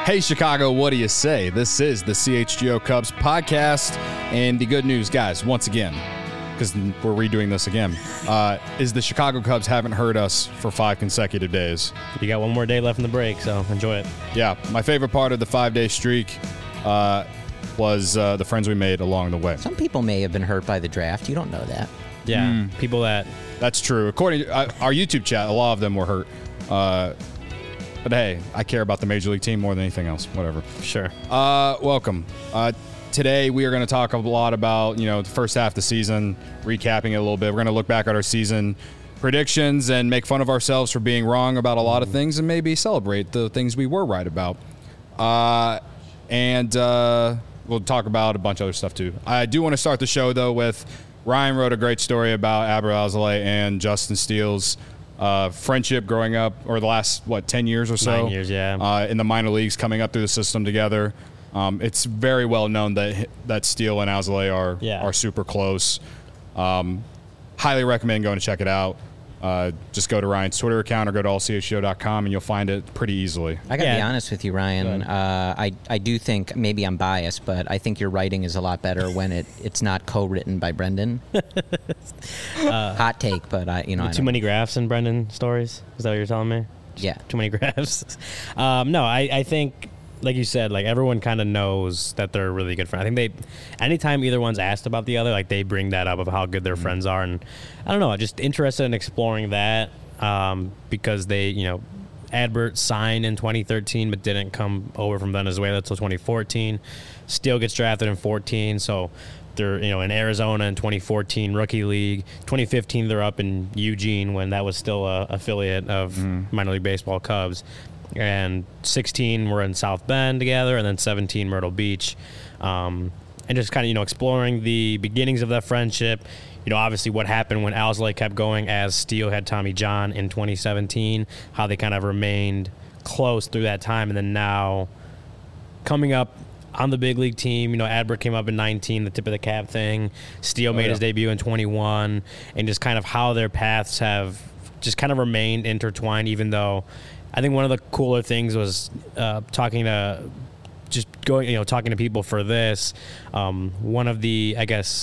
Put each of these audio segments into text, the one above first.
Hey, Chicago, what do you say? This is the CHGO Cubs podcast, and the good news, guys, once again, because we're redoing this again, is the Chicago Cubs haven't heard us for 5 consecutive days. You got one more day left in the break, so enjoy it. Yeah, my favorite part of the 5-day streak was the friends we made along the way. Some people may have been hurt by the draft. You don't know that. Yeah, people that... That's true. According to our YouTube chat, a lot of them were hurt. But hey, I care about the Major League team more than anything else. Whatever. Sure. Welcome. Today we are going to talk a lot about, the first half of the season, recapping it a little bit. We're going to look back at our season predictions and make fun of ourselves for being wrong about a lot of things and maybe celebrate the things we were right about. And we'll talk about a bunch of other stuff too. I do want to start the show though with Ryan wrote a great story about Adbert Alzolay and Justin Steele's friendship growing up, or the last 10 years or so. 9 years, yeah. In the minor leagues, coming up through the system together. It's very well known that Steele and Alzolay are super close. Highly recommend going to check it out. Just go to Ryan's Twitter account or go to allchgo.com and you'll find it pretty easily. I got to be honest with you, Ryan. I do think, maybe I'm biased, but I think your writing is a lot better when it's not co-written by Brendan. Hot take, but too many graphs in Brendan stories? Is that what you're telling me? Yeah. Too many graphs? No, I think, like you said, everyone kind of knows that they're really good friends. I think anytime either one's asked about the other, they bring that up of how good their friends are. And I don't know, just interested in exploring that because they, Adbert signed in 2013 but didn't come over from Venezuela until 2014. Steele gets drafted in 14, so they're, in Arizona in 2014, Rookie League. 2015, they're up in Eugene when that was still a affiliate of Minor League Baseball Cubs. And 16 we're in South Bend together, and then 17 Myrtle Beach, and just kind of exploring the beginnings of that friendship. Obviously what happened when Alzolay kept going as Steele had Tommy John in 2017, how they kind of remained close through that time, and then now coming up on the big league team. Adbert came up in 19, the tip of the cap thing. Steele made his debut in 21, and just kind of how their paths have just kind of remained intertwined, even though I think one of the cooler things was talking to people for this. One of the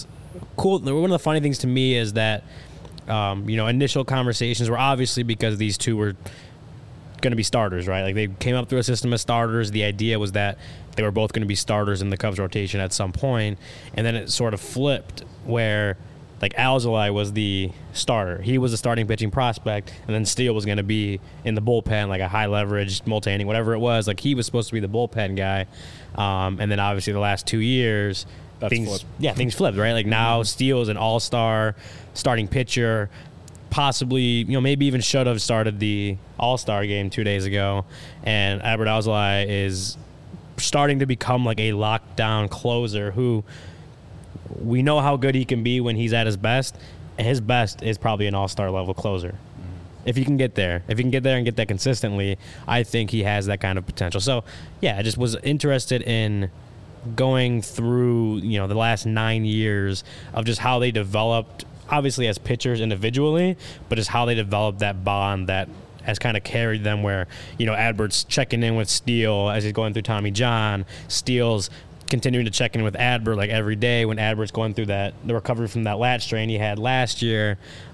funny things to me is that, initial conversations were obviously because these two were going to be starters, right? They came up through a system of starters. The idea was that they were both going to be starters in the Cubs rotation at some point, and then it sort of flipped where Alzolay was the starter. He was a starting pitching prospect, and then Steele was going to be in the bullpen, a high-leverage, multi-inning, whatever it was. He was supposed to be the bullpen guy. And then, obviously, the last 2 years, things flipped, right? Now Steele is an all-star starting pitcher, possibly, maybe even should have started the all-star game 2 days ago. And Adbert Alzolay is starting to become a lockdown closer who – we know how good he can be when he's at his best, and his best is probably an all-star level closer. If he can get there. If he can get there and get that consistently, I think he has that kind of potential. So, yeah, I just was interested in going through, the last 9 years of just how they developed, obviously as pitchers individually, but just how they developed that bond that has kind of carried them where, Adbert's checking in with Steele as he's going through Tommy John. Steele's continuing to check in with Adbert every day when Adbert's going through the recovery from that lat strain he had last year.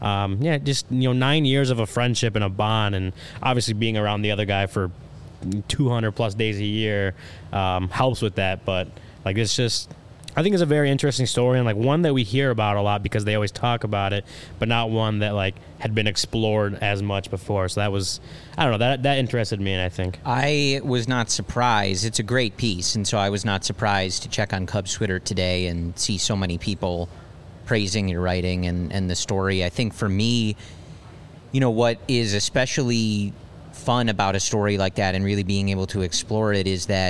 9 years of a friendship and a bond, and obviously being around the other guy for 200 plus days a year helps with that. But it's just, I think it's a very interesting story, and one that we hear about a lot because they always talk about it, but not one that had been explored as much before. So that was, I don't know, that interested me, and I think I was not surprised. It's a great piece, and so I was not surprised to check on Cubs Twitter today and see so many people praising your writing and the story. I think for me, what is especially fun about a story like that and really being able to explore it is that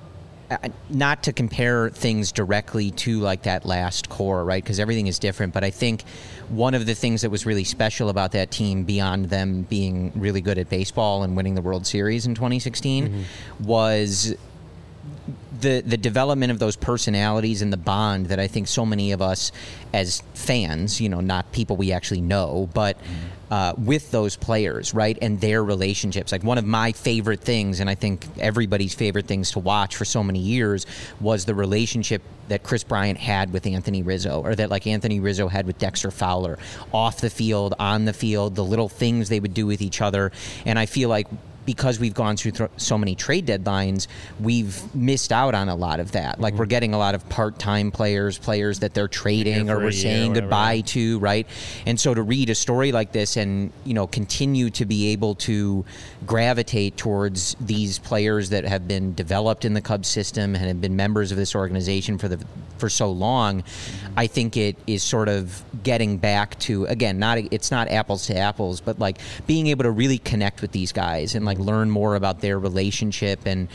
not to compare things directly to that last core, right? Because everything is different. But I think one of the things that was really special about that team, beyond them being really good at baseball and winning the World Series in 2016, was the development of those personalities and the bond that I think so many of us as fans, not people we actually know, but with those players, right, and their relationships. Like, one of my favorite things, and I think everybody's favorite things to watch for so many years, was the relationship that Kris Bryant had with Anthony Rizzo, or that, like, Anthony Rizzo had with Dexter Fowler, off the field, on the field, the little things they would do with each other. And I feel like because we've gone through so many trade deadlines, we've missed out on a lot of that. Like, we're getting a lot of part-time players that they're trading or we're saying goodbye to, right? And so to read a story like this and, continue to be able to gravitate towards these players that have been developed in the Cubs system and have been members of this organization for so long, I think it is sort of getting back to, again, it's not apples to apples, but like being able to really connect with these guys and like learn more about their relationship and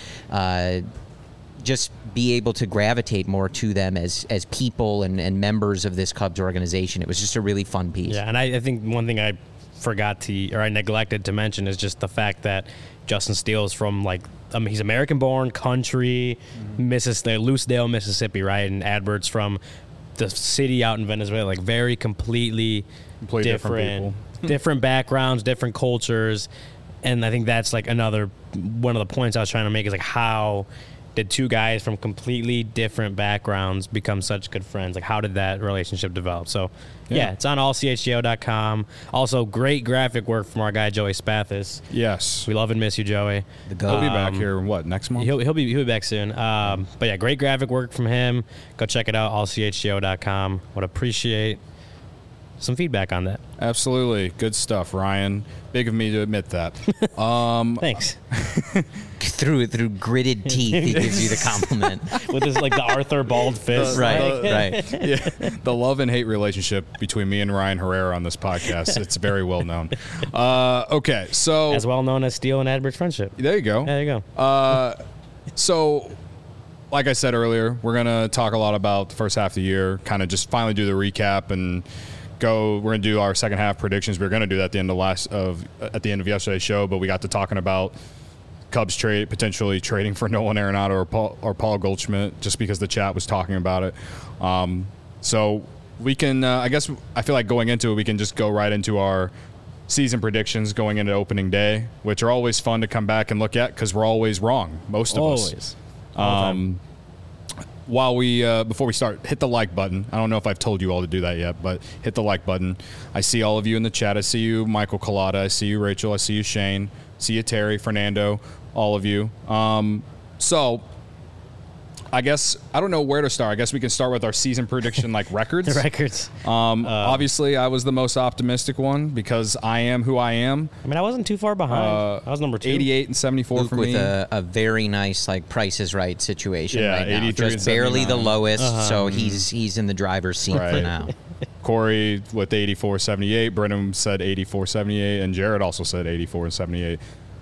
just be able to gravitate more to them as people and members of this Cubs organization. It was just a really fun piece. Yeah, and I think one thing I neglected to mention is just the fact that Justin Steele is from, like, he's American-born, country, Lucedale, Mississippi, right? And Adbert's from the city out in Venezuela, like very completely different backgrounds, different cultures. And I think that's like one of the points I was trying to make is like, how did two guys from completely different backgrounds become such good friends? Like, how did that relationship develop? So, yeah, it's on allchgo.com. Also, great graphic work from our guy, Joey Spathis. Yes. We love and miss you, Joey. He'll be back here, next month? He'll be back soon. But, yeah, great graphic work from him. Go check it out, allchgo.com. Would appreciate some feedback on that. Absolutely. Good stuff, Ryan. Big of me to admit that. Thanks. Through gritted teeth, he gives you the compliment. With his, like, the Arthur bald fist. Right. Yeah, the love and hate relationship between me and Ryan Herrera on this podcast, it's very well known. Okay, so... As well known as Steele and Adbert's friendship. There you go. So, like I said earlier, we're going to talk a lot about the first half of the year, kind of just finally do the recap and... We're going to do our second half predictions. We were going to do that at the end of yesterday's show, but we got to talking about Cubs potentially trading for Nolan Arenado or Paul Goldschmidt, just because the chat was talking about it. So we can, I feel like going into it, we can just go right into our season predictions going into opening day, which are always fun to come back and look at because we're always wrong, most of us. While before we start, hit the like button. I don't know if I've told you all to do that yet, but hit the like button. I see all of you in the chat. I see you, Michael Collada. I see you, Rachel. I see you, Shane. I see you, Terry, Fernando, all of you. So I guess I don't know where to start. I guess we can start with our season prediction, like records. The records. Obviously, I was the most optimistic one because I am who I am. I mean, I wasn't too far behind. I was number 2. 88 and 74 Luke for with me. a very nice, like, Price is Right situation right now. 83 Just barely the lowest, so he's in the driver's seat Right. for now. Corey with 84-78. Brennan said 84-78, and Jared also said 84-78.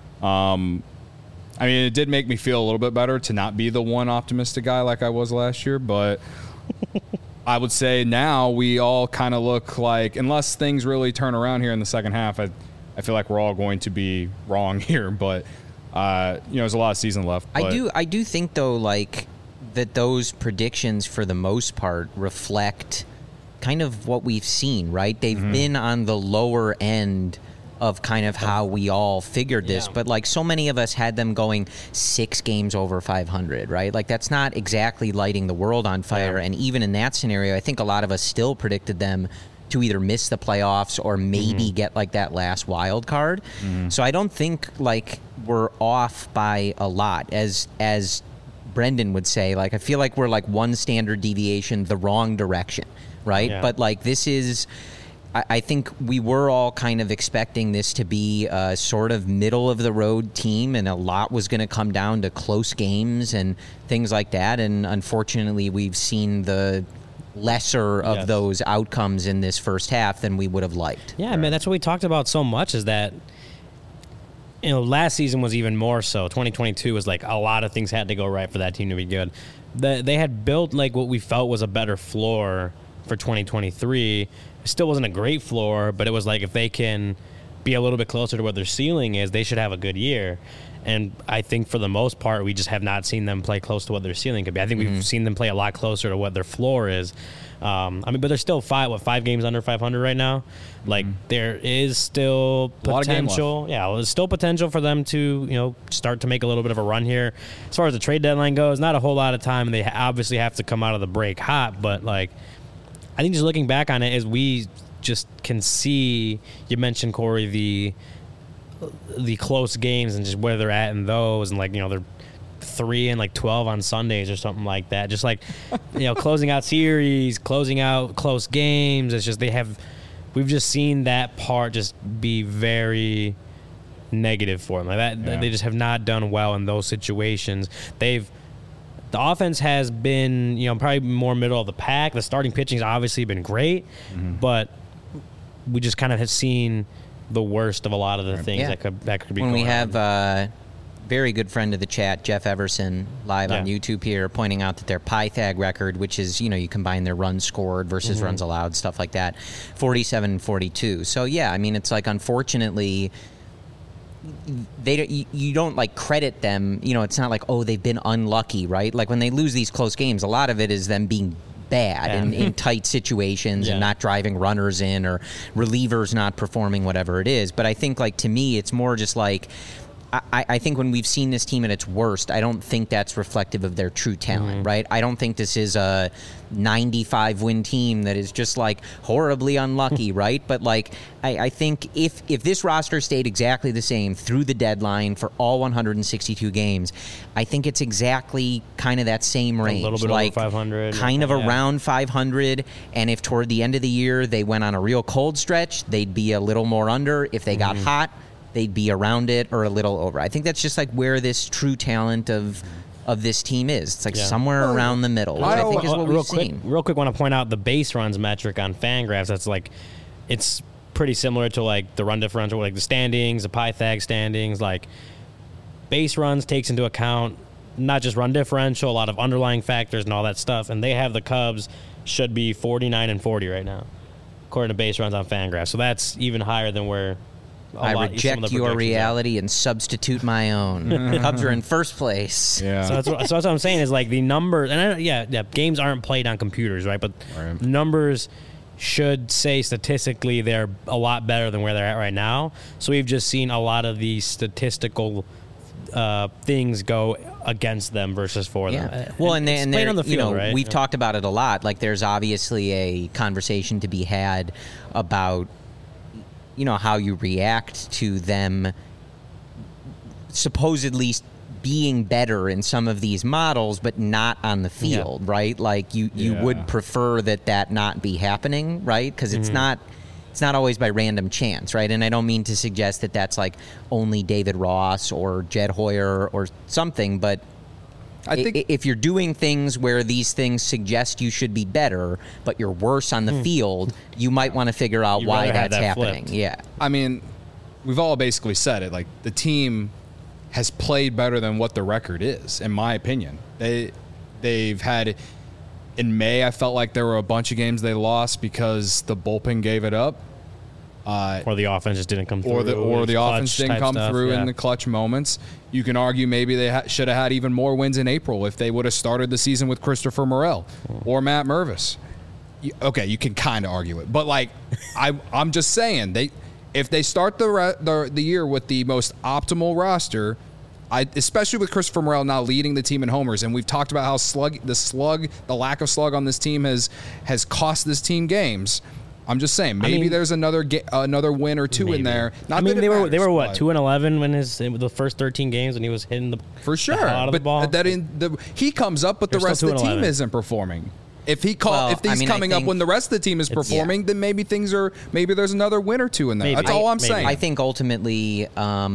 I mean, it did make me feel a little bit better to not be the one optimistic guy like I was last year, but I would say now we all kind of look like, unless things really turn around here in the second half, I feel like we're all going to be wrong here, but there's a lot of season left. I do think, though, like, that those predictions for the most part reflect kind of what we've seen, right? They've been on the lower end of kind of how we all figured this, but like so many of us had them going 6 games over 500, right? Like that's not exactly lighting the world on fire. And even in that scenario, I think a lot of us still predicted them to either miss the playoffs or maybe get like that last wild card. So I don't think like we're off by a lot, as Brendan would say. Like I feel like we're like one standard deviation the wrong direction, right? Yeah. But like this is, I think we were all kind of expecting this to be a sort of middle-of-the-road team, and a lot was going to come down to close games and things like that. And unfortunately, we've seen the lesser of those outcomes in this first half than we would have liked. Yeah, man, that's what we talked about so much is that, last season was even more so. 2022 was like a lot of things had to go right for that team to be good. They had built like what we felt was a better floor for 2023. It still wasn't a great floor, but it was like if they can be a little bit closer to what their ceiling is, they should have a good year. And I think for the most part, we just have not seen them play close to what their ceiling could be. I think we've seen them play a lot closer to what their floor is. But they're still 5 games under 500 right now. Like, there is still potential. Yeah, there's still potential for them to, start to make a little bit of a run here. As far as the trade deadline goes, not a whole lot of time. They obviously have to come out of the break hot. But, I think just looking back on it, as we just can see, you mentioned, Corey, the close games and just where they're at in those, and they're 3-12 on Sundays or something like that. Just closing out series, closing out close games. It's just we've just seen that part just be very negative for them. They just have not done well in those situations. The offense has been, probably more middle of the pack. The starting pitching's obviously been great, but we just kind of have seen the worst of a lot of the things that could be when going we have on. Very good friend of the chat, Jeff Everson, live on YouTube here, pointing out that their Pythag record, which is, you combine their runs scored versus runs allowed, stuff like that, 47-42. So, it's unfortunately, you don't credit them. It's not like, oh, they've been unlucky, right? When they lose these close games, a lot of it is them being bad in tight situations and not driving runners in, or relievers not performing, whatever it is. But I think, to me, it's more just I think when we've seen this team at its worst, I don't think that's reflective of their true talent, right? I don't think this is a 95-win team that is just horribly unlucky, right? But I think if this roster stayed exactly the same through the deadline for all 162 games, I think it's exactly kind of that same range, a little bit over 500, kind of around 500. And if toward the end of the year they went on a real cold stretch, they'd be a little more under. If they got hot, they'd be around it or a little over. I think that's just where this true talent of this team is. It's somewhere around the middle, which I think is what we've seen. Real quick, want to point out the base runs metric on Fangraphs. That's it's pretty similar to the run differential, the standings, the Pythag standings. Base runs takes into account not just run differential, a lot of underlying factors and all that stuff. And they have the Cubs should be 49-40 right now, according to base runs on Fangraphs. So that's even higher than where I reject your reality and substitute my own. Cubs are in first place. Yeah. So that's what I'm saying is the numbers, and games aren't played on computers, right? But numbers should say statistically they're a lot better than where they're at right now. So we've just seen a lot of these statistical things go against them versus for them. Well, and they're on the field, right? We've talked about it a lot. There's obviously a conversation to be had about how you react to them supposedly being better in some of these models, but not on the field, right? You would prefer that not be happening, right? Because it's not always by random chance, right? And I don't mean to suggest that that's only David Ross or Jed Hoyer or something, but I think if you're doing things where these things suggest you should be better, but you're worse on the field, you might want to figure out why that's happening. Flipped. Yeah. I mean, we've all basically said it. The team has played better than what the record is, in my opinion. They've had, in May, I felt like there were a bunch of games they lost because the bullpen gave it up. Or the offense just didn't come through. Or the offense didn't come through in the clutch moments. You can argue maybe they should have had even more wins in April if they would have started the season with Christopher Morel or Matt Mervis. Okay, you can kind of argue it. But, I'm just saying, if they start the year with the most optimal roster, especially with Christopher Morel now leading the team in homers, and we've talked about how the lack of slug on this team has cost this team games. I'm just saying, maybe there's another win or two in there. They were what, 2-11 when the first 13 games when he was hitting the out of the ball. He comes up, but the rest of the team isn't performing. If he's coming up when the rest of the team is performing, then maybe there's another win or two in there. That's all I'm saying. I think ultimately,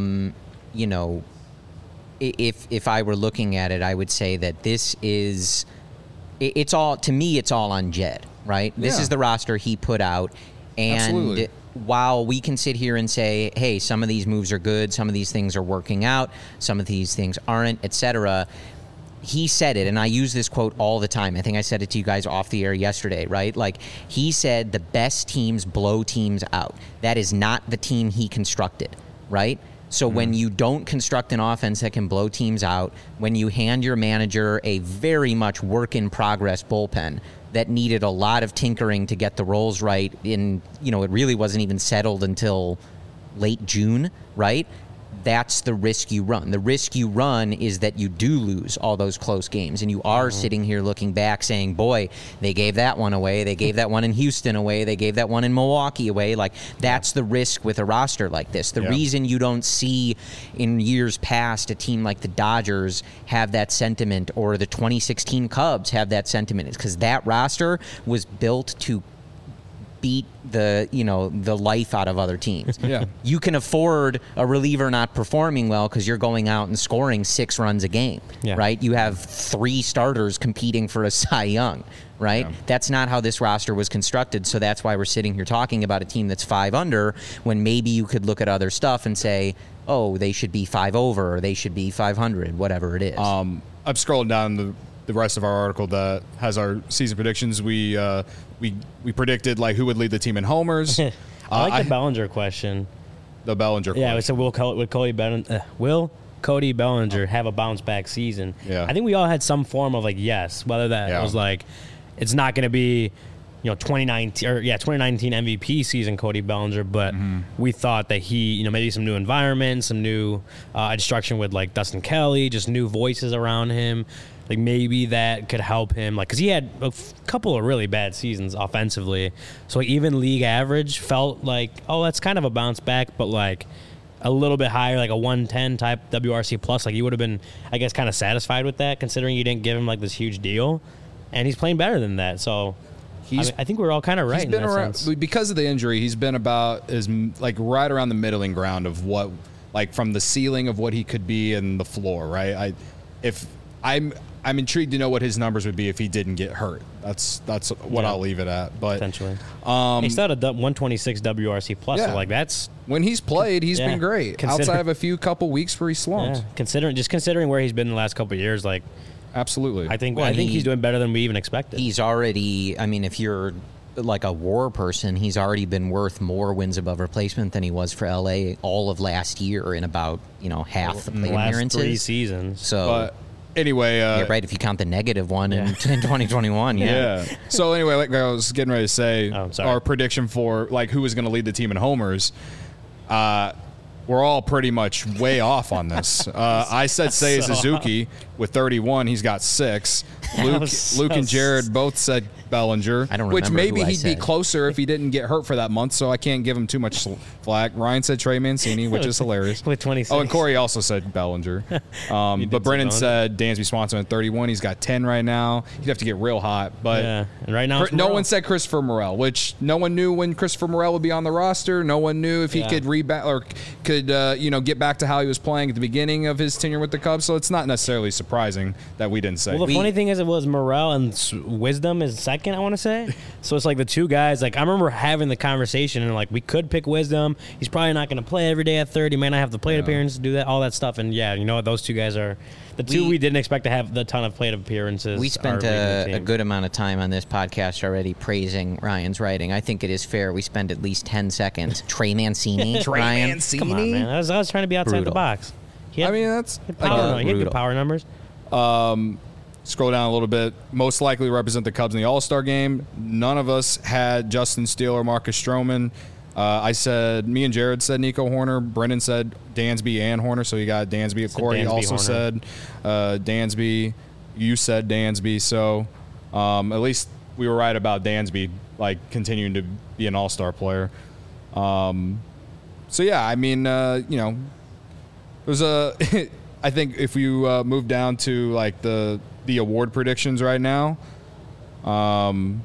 if I were looking at it, I would say that this is. It's all on Jed, right? This is the roster he put out, and Absolutely. While we can sit here and say, hey, some of these moves are good, some of these things are working out, some of these things aren't, etc., he said it, and I use this quote all the time. I think I said it to you guys off the air yesterday, right? Like, he said the best teams blow teams out. That is not the team he constructed, right? So when you don't construct an offense that can blow teams out, when you hand your manager a very much work-in-progress bullpen that needed a lot of tinkering to get the roles right it really wasn't even settled until late June, right? That's the risk you run. The risk you run is that you do lose all those close games, and you are sitting here looking back saying, boy, they gave that one away. They gave that one in Houston away. They gave that one in Milwaukee away. Like, that's the risk with a roster like this. The reason you don't see in years past a team like the Dodgers have that sentiment, or the 2016 Cubs have that sentiment, is because that roster was built to beat the life out of other teams. Yeah. You can afford a reliever not performing well because you're going out and scoring 6 runs a game, right? You have 3 starters competing for a Cy Young, right? Yeah. That's not how this roster was constructed, so that's why we're sitting here talking about a team that's 5 under when maybe you could look at other stuff and say, oh, they should be 5 over, or they should be 500, whatever it is. I'm scrolling down the rest of our article that has our season predictions. We predicted like who would lead the team in homers. I like the Bellinger question. The Bellinger question. Yeah, so will Cody Bellinger have a bounce back season? Yeah. I think we all had some form of like yes, whether that was like it's not going to be 2019 MVP season Cody Bellinger, but we thought that he maybe some new environment, some new instruction with like Dustin Kelly, just new voices around him. Like, maybe that could help him, like, because he had a couple of really bad seasons offensively. So, like, even league average felt like, oh, that's kind of a bounce back, but, like, a little bit higher, like a 110 type WRC plus. Like, you would have been, I guess, kind of satisfied with that, considering you didn't give him, like, this huge deal. And he's playing better than that. So, I think we're all kind of right in that sense. Because of the injury, he's been about right around the middling ground of what, like, from the ceiling of what he could be and the floor, right? I'm intrigued to know what his numbers would be if he didn't get hurt. That's what I'll leave it at. But potentially, he's got a 126 WRC plus. So like that's when he's played, he's been great. Outside of a couple weeks where he slumped. Yeah. Considering where he's been the last couple of years, like absolutely, I think he's doing better than we even expected. He's already. I mean, if you're like a WAR person, he's already been worth more wins above replacement than he was for LA all of last year in about half the plate appearances. Last 3 seasons. So. But, anyway, right. If you count the negative one in 2021, So anyway, like I was getting ready to say, our prediction for like who was going to lead the team in homers, we're all pretty much way off on this. I said Seiya Suzuki with 31. He's got 6. Luke and Jared both said Bellinger, I don't which maybe he'd said. be closer if he didn't get hurt for that month, so I can't give him too much flack. Ryan said Trey Mancini, which is hilarious. With 26. Oh, and Corey also said Bellinger. But Brennan said Dansby Swanson at 31. He's got 10 right now. He'd have to get real hot. But and right now no one said Christopher Morel, which no one knew when Christopher Morel would be on the roster. No one knew if he could rebound or could get back to how he was playing at the beginning of his tenure with the Cubs. So it's not necessarily surprising that we didn't say. Well, the funny thing is, it was Morel and Wisdom is second, I want to say. So it's like the two guys. Like I remember having the conversation and like we could pick Wisdom. He's probably not going to play every day at third. He may not have the plate appearance to do that, all that stuff. And you know what? Those two guys are the two we didn't expect to have the ton of plate appearances. We spent a good amount of time on this podcast already praising Ryan's writing. I think it is fair we spend at least 10 seconds. Trey Mancini, Ryan. Come on, man. I was trying to be outside the box. He had good power numbers. Scroll down a little bit. Most likely to represent the Cubs in the All-Star game. None of us had Justin Steele or Marcus Stroman. Me and Jared said Nico Horner. Brendan said Dansby and Horner, so you got Dansby. Corey also said Dansby. You said Dansby. So at least we were right about Dansby, like, continuing to be an All-Star player. So, yeah, I mean, there's I think if you move down to, like, the award predictions right now, I'll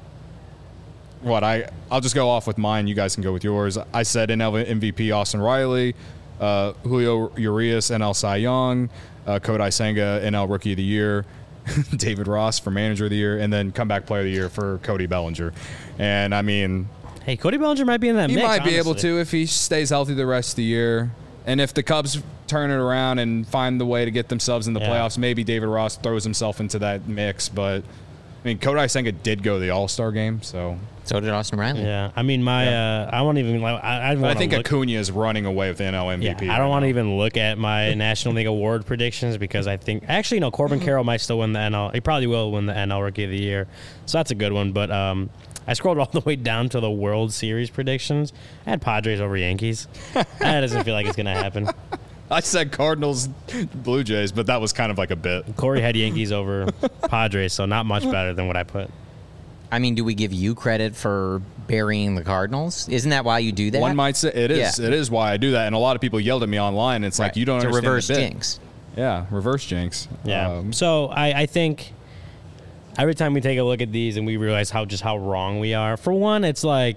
just go off with mine. You guys can go with yours. I said NL MVP Austin Riley, Julio Urias NL Cy Young, Kodai Senga NL Rookie of the Year, David Ross for Manager of the Year, and then Comeback Player of the Year for Cody Bellinger. And I mean, hey, Cody Bellinger might be in that mix. He might be able to if he stays healthy the rest of the year. And if the Cubs turn it around and find the way to get themselves in the playoffs. Maybe David Ross throws himself into that mix, but I mean, Kodai Senga did go to the All-Star game, so did Austin Riley. Yeah, I mean, I won't even. I think Acuna is running away with the NL MVP. Yeah, I don't want to even look at my National League award predictions because I think actually no, Corbin Carroll might still win the NL. He probably will win the NL Rookie of the Year, so that's a good one. But I scrolled all the way down to the World Series predictions. I had Padres over Yankees. That doesn't feel like it's gonna happen. I said Cardinals, Blue Jays, but that was kind of like a bit. Corey had Yankees over Padres, so not much better than what I put. I mean, do we give you credit for burying the Cardinals? Isn't that why you do that? One might say it is. Yeah. It is why I do that. And a lot of people yelled at me online. It's like, you don't understand reverse jinx. Yeah, reverse jinx. Yeah. So I think every time we take a look at these and we realize how wrong we are, for one, it's like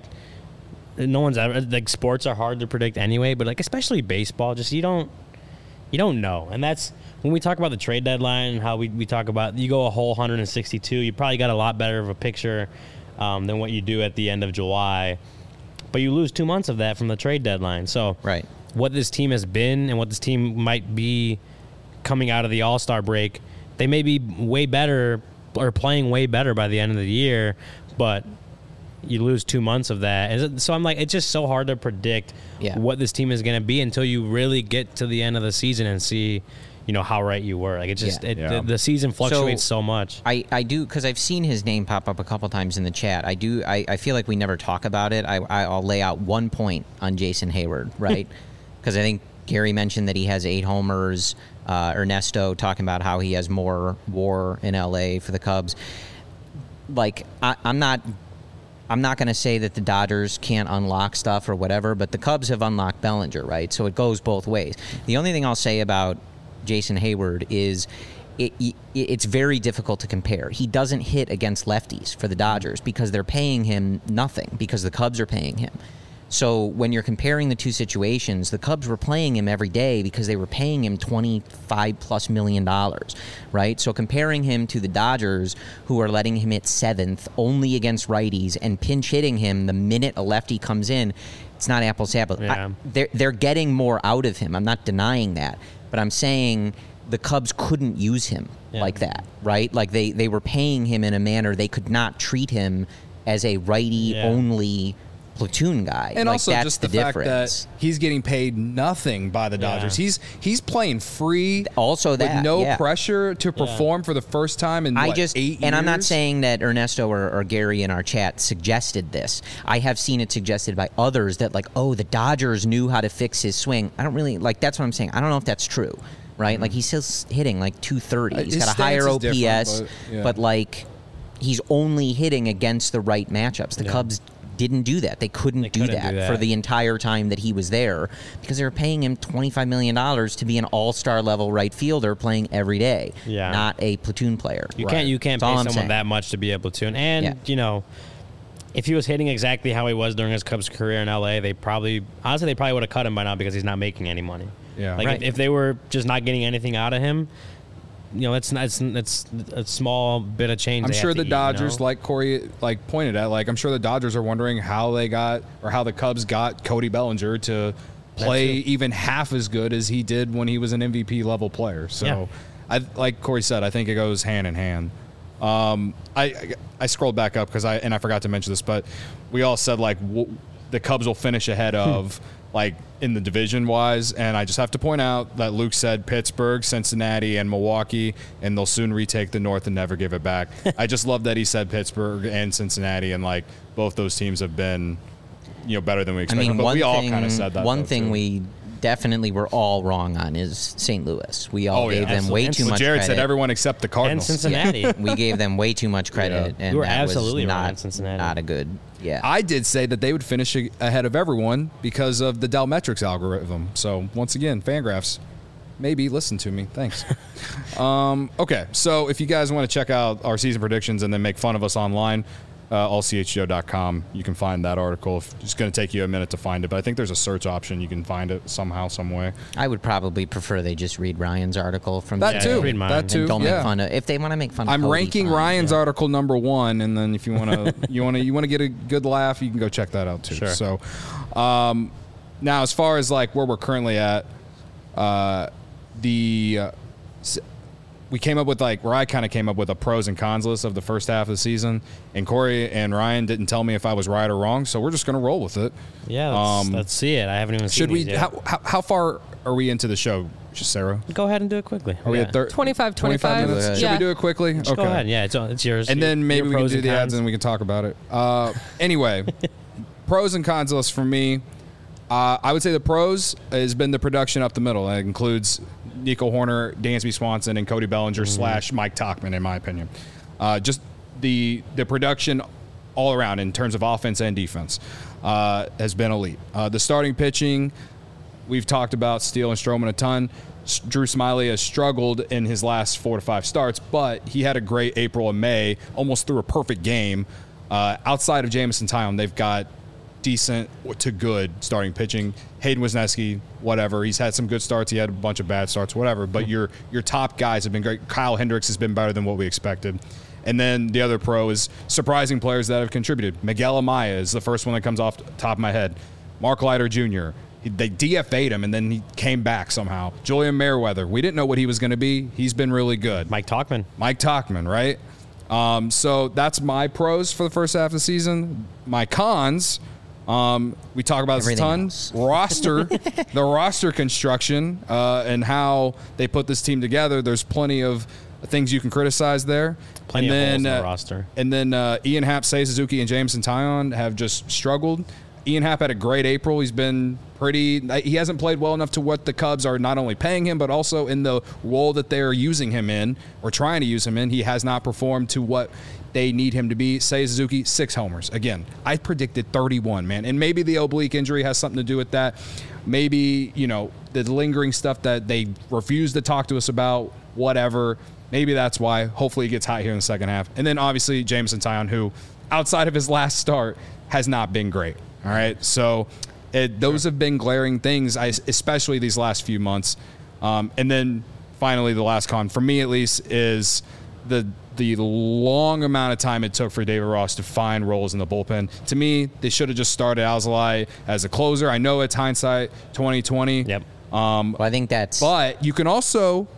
no one's ever, like, sports are hard to predict anyway, but like especially baseball, just you don't know. And that's when we talk about the trade deadline and how we talk about you go a whole 162, you probably got a lot better of a picture than what you do at the end of July. But you lose 2 months of that from the trade deadline. So what this team has been and what this team might be coming out of the All-Star break, they may be way better or playing way better by the end of the year, but you lose 2 months of that. And so I'm like, it's just so hard to predict what this team is going to be until you really get to the end of the season and see, how right you were. Like, it just, the season fluctuates so much. I do, because I've seen his name pop up a couple times in the chat. I feel like we never talk about it. I'll lay out 1 point on Jason Hayward, right? Because I think Gary mentioned that he has 8 homers. Ernesto talking about how he has more WAR in LA for the Cubs. Like, I'm not going to say that the Dodgers can't unlock stuff or whatever, but the Cubs have unlocked Bellinger, right? So it goes both ways. The only thing I'll say about Jason Hayward is it's very difficult to compare. He doesn't hit against lefties for the Dodgers because they're paying him nothing because the Cubs are paying him. So when you're comparing the two situations, the Cubs were playing him every day because they were paying him $25+ million, right? So comparing him to the Dodgers, who are letting him hit 7th only against righties and pinch hitting him the minute a lefty comes in, it's not apples to apples. Yeah. They're getting more out of him. I'm not denying that. But I'm saying the Cubs couldn't use him like that, right? Like they were paying him in a manner they could not treat him as a righty-only platoon guy. And like, also that's just the fact that he's getting paid nothing by the Dodgers. He's playing free also with no pressure to perform for the first time in 8 years. And I'm not saying that Ernesto or Gary in our chat suggested this. I have seen it suggested by others that like, the Dodgers knew how to fix his swing. I don't really like, that's what I'm saying. I don't know if that's true, right? Mm-hmm. Like, he's still hitting like 230. He's got a higher OPS, but like he's only hitting against the right matchups. The Cubs didn't do that. They couldn't do that for the entire time that he was there because they were paying him $25 million to be an all-star level right fielder playing every day, not a platoon player. You can't pay someone that much to be a platoon. And, if he was hitting exactly how he was during his Cubs career in LA, they probably would have cut him by now because he's not making any money. Yeah. Like if they were just not getting anything out of him, it's a small bit of change. I'm sure the Dodgers, like Corey pointed at, I'm sure the Dodgers are wondering how the Cubs got Cody Bellinger to play even half as good as he did when he was an MVP level player. So, like Corey said, I think it goes hand in hand. I scrolled back up because I forgot to mention this, but we all said the Cubs will finish ahead of. In the division wise, and I just have to point out that Luke said Pittsburgh, Cincinnati, and Milwaukee, and they'll soon retake the North and never give it back. I just love that he said Pittsburgh and Cincinnati, and both those teams have been, better than we expected. I mean, but we all kind of said that. One thing we definitely were all wrong on is St. Louis. We all gave them way too much Jared credit. said everyone except the Cardinals. And Cincinnati. We gave them way too much credit, and we were that absolutely was wrong on Cincinnati. Not a good. Yeah, I did say that they would finish ahead of everyone because of the Delmetrics algorithm. So once again, Fangraphs, maybe listen to me. Thanks. Okay, so if you guys want to check out our season predictions and then make fun of us online, allchgo.com. You can find that article. It's going to take you a minute to find it, but I think there's a search option. You can find it somehow, some way. I would probably prefer they just read Ryan's article from that too. Read mine. That too. And don't make fun of if they want to make fun. I'm of ranking Ryan's article number 1, and then if you want to, you want to get a good laugh, you can go check that out too. Sure. So, now as far as where we're currently at. we came up with where I kind of came up with a pros and cons list of the first half of the season, and Corey and Ryan didn't tell me if I was right or wrong, so we're just going to roll with it. Yeah, let's see it. I haven't even seen it yet. How far are we into the show, Sarah? Go ahead and do it quickly. Are we at 25 minutes? Should we do it quickly? Okay. Go ahead. Yeah, it's yours. And then maybe we can do the ads and we can talk about it. Anyway, pros and cons list for me. I would say the pros has been the production up the middle. That includes Nico Horner, Dansby Swanson, and Cody Bellinger / Mike Tauchman, in my opinion. Just the production all around in terms of offense and defense has been elite. The starting pitching, we've talked about Steele and Stroman a ton. Drew Smyly has struggled in his last 4 to 5 starts, but he had a great April and May, almost threw a perfect game. Outside of Jameson Taillon, they've got decent to good starting pitching. Hayden Wesneski, whatever. He's had some good starts. He had a bunch of bad starts, whatever. But your top guys have been great. Kyle Hendricks has been better than what we expected. And then the other pro is surprising players that have contributed. Miguel Amaya is the first one that comes off the top of my head. Mark Leiter Jr., they DFA'd him, and then he came back somehow. Julian Merriweather, we didn't know what he was going to be. He's been really good. Mike Tauchman, right? So that's my pros for the first half of the season. My cons... we talk about this a ton. The roster construction and how they put this team together. There's plenty of things you can criticize there. Plenty of holes in the roster. And then Ian Happ, Seiya Suzuki, and Jameson Taillon have just struggled. Ian Happ had a great April. He hasn't played well enough to what the Cubs are not only paying him, but also in the role that they're using him in or trying to use him in. He has not performed to what they need him to be. Seiya Suzuki, 6 homers. Again, I predicted 31, man. And maybe the oblique injury has something to do with that. Maybe, the lingering stuff that they refuse to talk to us about, whatever. Maybe that's why. Hopefully he gets hot here in the second half. And then obviously Jameson Taillon, who outside of his last start has not been great. All right. So those have been glaring things, especially these last few months. And then finally, the last con, for me at least, is the long amount of time it took for David Ross to find roles in the bullpen. To me, they should have just started Alzolay as a closer. I know it's hindsight 2020. Yep. Well, I think that's. But you can also,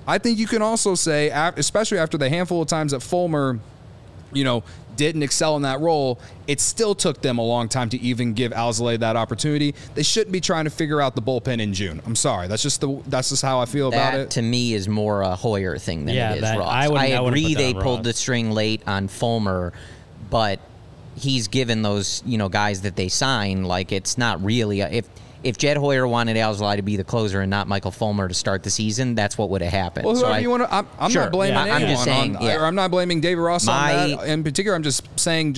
say, especially after the handful of times that Fulmer, didn't excel in that role, it still took them a long time to even give Alzolay that opportunity. They shouldn't be trying to figure out the bullpen in June. I'm sorry. That's just how I feel about it. That, to me, is more a Hoyer thing than it is Ross. I agree they pulled the string late on Fulmer, but he's given those, guys that they sign, it's not really if Jed Hoyer wanted Alzolay to be the closer and not Michael Fulmer to start the season, that's what would have happened. Well, whoever you want to, I'm sure, not blaming anyone. I'm just saying, I'm not blaming David Ross on that. In particular, I'm just saying,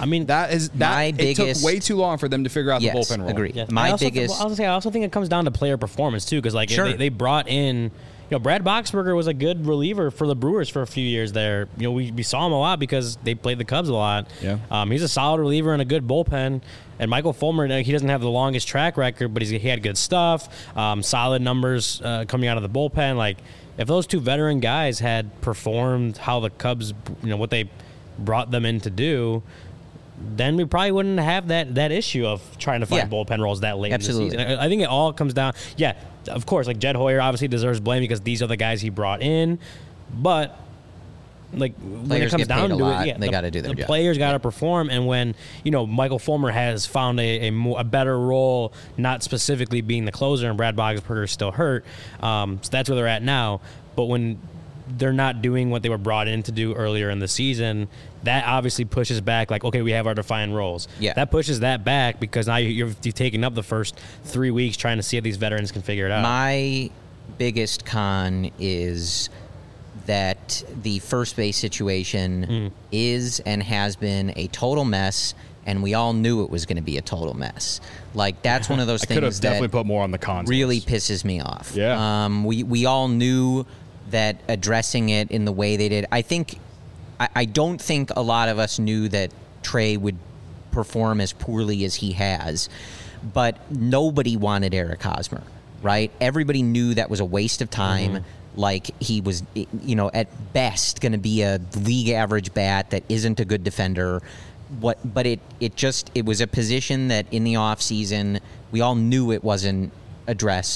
it took way too long for them to figure out the bullpen role. Agree. Yes. I also think it comes down to player performance too, because they brought in. Brad Boxberger was a good reliever for the Brewers for a few years there. We saw him a lot because they played the Cubs a lot. Yeah. He's a solid reliever and a good bullpen. And Michael Fulmer, he doesn't have the longest track record, but he had good stuff, solid numbers coming out of the bullpen. If those two veteran guys had performed how the Cubs, what they brought them in to do, then we probably wouldn't have that issue of trying to find bullpen roles that late in the season. I think it all comes down, of course, Jed Hoyer obviously deserves blame because these are the guys he brought in, but when it comes down to it, they got to do their job. The players got to perform, and when Michael Fulmer has found a better role, not specifically being the closer, and Brad Boxberger is still hurt, so that's where they're at now. But when they're not doing what they were brought in to do earlier in the season, that obviously pushes back, okay, we have our defined roles. Yeah. That pushes that back because now you've taken up the first 3 weeks trying to see if these veterans can figure it out. My biggest con is that the first base situation is and has been a total mess, and we all knew it was going to be a total mess. That's one of those things could have definitely put more on the cons really list. Pisses me off. Yeah. We all knew that addressing it in the way they did. I don't think a lot of us knew that Trey would perform as poorly as he has, but nobody wanted Eric Hosmer, right? Everybody knew that was a waste of time. He was, at best going to be a league average bat that isn't a good defender. But it was a position that in the off season we all knew it wasn't addressed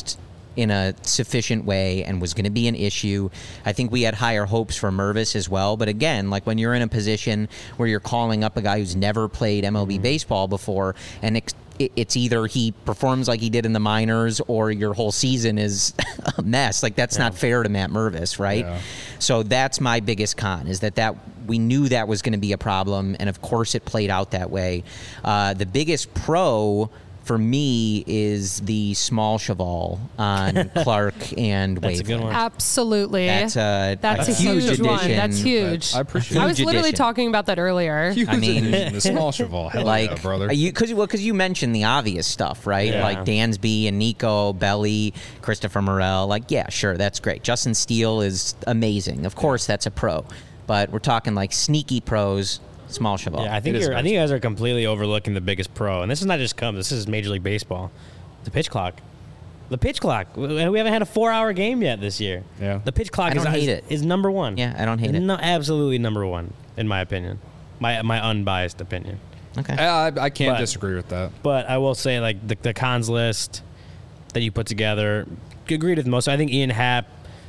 in a sufficient way and was going to be an issue. I think we had higher hopes for Mervis as well. But again, like when you're in a position where you're calling up a guy who's never played MLB baseball before, and it's either he performs like he did in the minors or your whole season is a mess. Like, that's not fair to Matt Mervis, right? Yeah. So that's my biggest con, is that we knew that was going to be a problem, and of course it played out that way. The biggest pro for me is the small cheval on Clark and Waveland. That's a good one. Absolutely. That's a huge addition. one. That's huge. I appreciate it. I was literally talking about that earlier. Huge addition, the small cheval. Hell like, yeah, brother. Because you mentioned the obvious stuff, right? Yeah. Like Dansby and Nico, Belly, Christopher Morel. Like, yeah, sure, that's great. Justin Steele is amazing. Of course, that's a pro. But we're talking like sneaky pros. Small cheval. Yeah, I think you guys are completely overlooking the biggest pro, and this is not just Cubs. This is Major League Baseball. The pitch clock. The pitch clock. We haven't had a 4-hour game yet this year. Yeah. The pitch clock is number one. Yeah, I don't hate it. No, absolutely number one, in my opinion. My unbiased opinion. Okay. I can't disagree with that. But I will say, like, the cons list that you put together, agreed with most. I think Ian Happ,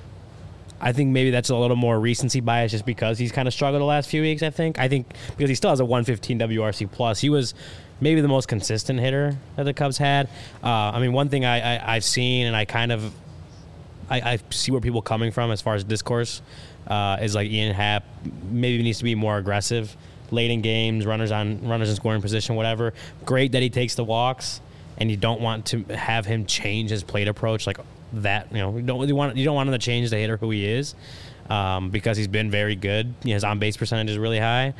I think maybe that's a little more recency bias just because he's kind of struggled the last few weeks, I think because he still has a 115 WRC plus. He was maybe the most consistent hitter that the Cubs had. I mean, one thing I've seen, and I see where people are coming from as far as discourse, is like Ian Happ maybe needs to be more aggressive late in games, runners in scoring position, whatever. Great that he takes the walks, and you don't want to have him change his plate approach like that. You don't want him to change the hitter who he is, because he's been very good. His on base percentage is really high,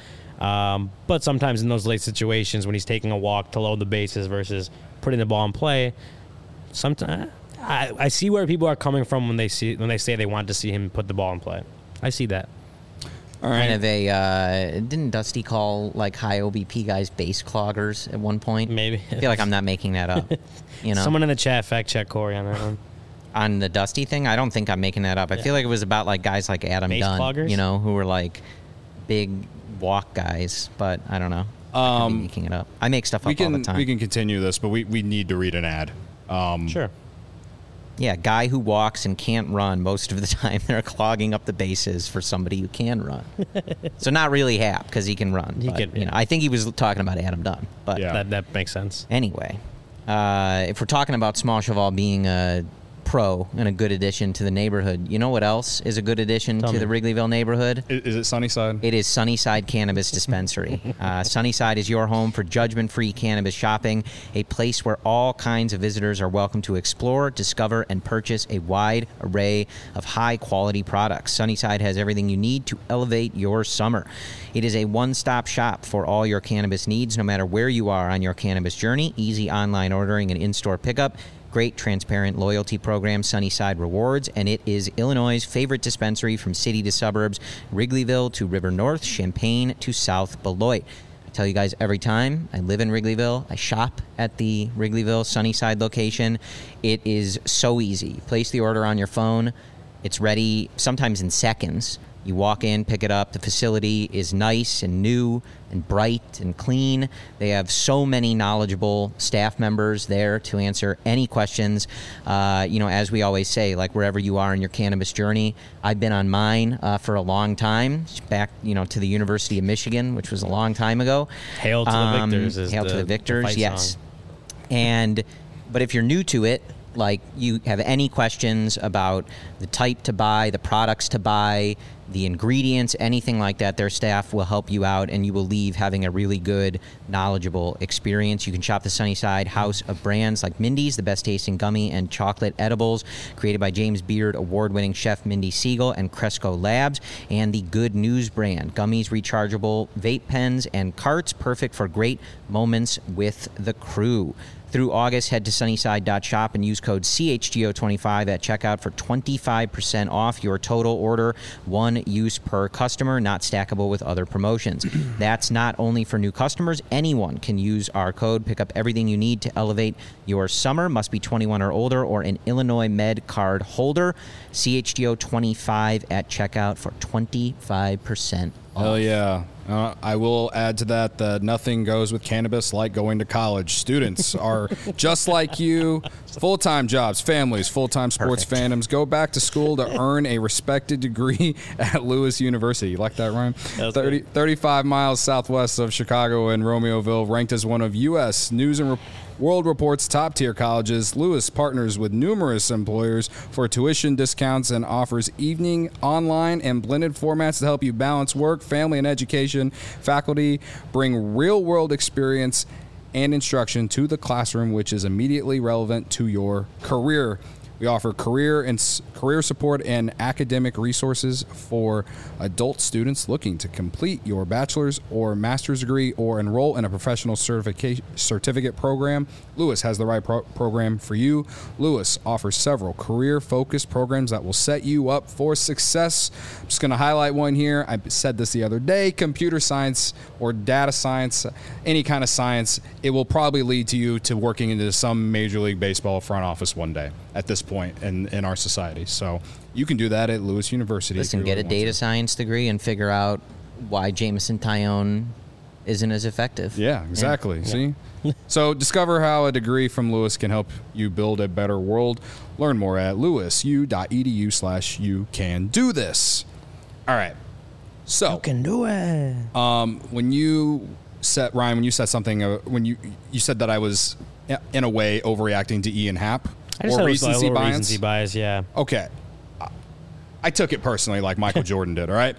but sometimes in those late situations when he's taking a walk to load the bases versus putting the ball in play, sometimes I see where people are coming from when they say they want to see him put the ball in play. I see that. All right. Kind of didn't Dusty call like high OBP guys base cloggers at one point? Maybe. I feel like I'm not making that up. Someone in the chat fact check Corey on that one. On the Dusty thing, I don't think I'm making that up. I feel like it was about like guys like Adam Base Dunn, cloggers? Who were like big walk guys, but I don't know. I could be making it up. I make stuff up all the time. We can continue this, but we need to read an ad. Sure. Yeah, guy who walks and can't run most of the time. They're clogging up the bases for somebody who can run. So not really Happ because he can run. I think he was talking about Adam Dunn. But that makes sense. Anyway, if we're talking about Small Cheval being a pro and a good addition to the neighborhood, you know what else is a good addition to the Wrigleyville neighborhood? Is it Sunnyside? It is Sunnyside Cannabis Dispensary. Sunnyside is your home for judgment-free cannabis shopping, a place where all kinds of visitors are welcome to explore, discover, and purchase a wide array of high-quality products. Sunnyside has everything you need to elevate your summer. It is a one-stop shop for all your cannabis needs, no matter where you are on your cannabis journey. Easy online ordering and in-store pickup. Great transparent loyalty program, Sunnyside Rewards, and it is Illinois' favorite dispensary from city to suburbs, Wrigleyville to River North, Champaign to South Beloit. I tell you guys every time, I live in Wrigleyville. I shop at the Wrigleyville Sunnyside location. It is so easy. Place the order on your phone. It's ready sometimes in seconds. You walk in, pick it up. The facility is nice and new and bright and clean. They have so many knowledgeable staff members there to answer any questions. As we always say, like wherever you are in your cannabis journey, I've been on mine for a long time, back to the University of Michigan, which was a long time ago. Hail to the victors. Hail to the victors, yes. Song. But if you're new to it, like you have any questions about the type to buy, the products to buy, the ingredients, anything like that, their staff will help you out and you will leave having a really good, knowledgeable experience. You can shop the Sunnyside house of brands like Mindy's, the best tasting gummy and chocolate edibles created by James Beard award-winning chef Mindy Siegel and Cresco Labs, and the Good News brand, gummies, rechargeable vape pens, and carts, perfect for great moments with the crew. Through August, head to sunnyside.shop and use code CHGO25 at checkout for 25% off your total order, one use per customer, not stackable with other promotions. That's not only for new customers. Anyone can use our code. Pick up everything you need to elevate your summer. Must be 21 or older or an Illinois Med card holder. CHGO25 at checkout for 25% off. Hell yeah. I will add to that nothing goes with cannabis like going to college. Students are just like you. Full-time jobs, families, full-time sports fandoms. Go back to school to earn a respected degree at Lewis University. You like that, Ryan? 35 miles southwest of Chicago and Romeoville, ranked as one of U.S. News and World Report's top-tier colleges. Lewis partners with numerous employers for tuition discounts and offers evening, online, and blended formats to help you balance work, family, and education. Faculty bring real-world experience and instruction to the classroom, which is immediately relevant to your career. We offer career support and academic resources for adult students looking to complete your bachelor's or master's degree or enroll in a professional certificate program. Lewis has the right program for you. Lewis offers several career-focused programs that will set you up for success. I'm just going to highlight one here. I said this the other day. Computer science or data science, any kind of science, it will probably lead to you to working into some Major League Baseball front office one day at this point in our society. So you can do that at Lewis University. Listen, get a data science degree and figure out why Jameson Tyone isn't as effective. Yeah, exactly. Yeah. See? So discover how a degree from Lewis can help you build a better world. Learn more at lewisu.edu/you can do this. All right. So you can do it. When you said, Ryan, when you said something, when you said that I was in a way overreacting to Ian Happ. I just or recency bias. Recency bias, yeah. Okay. I took it personally like Michael Jordan did, all right?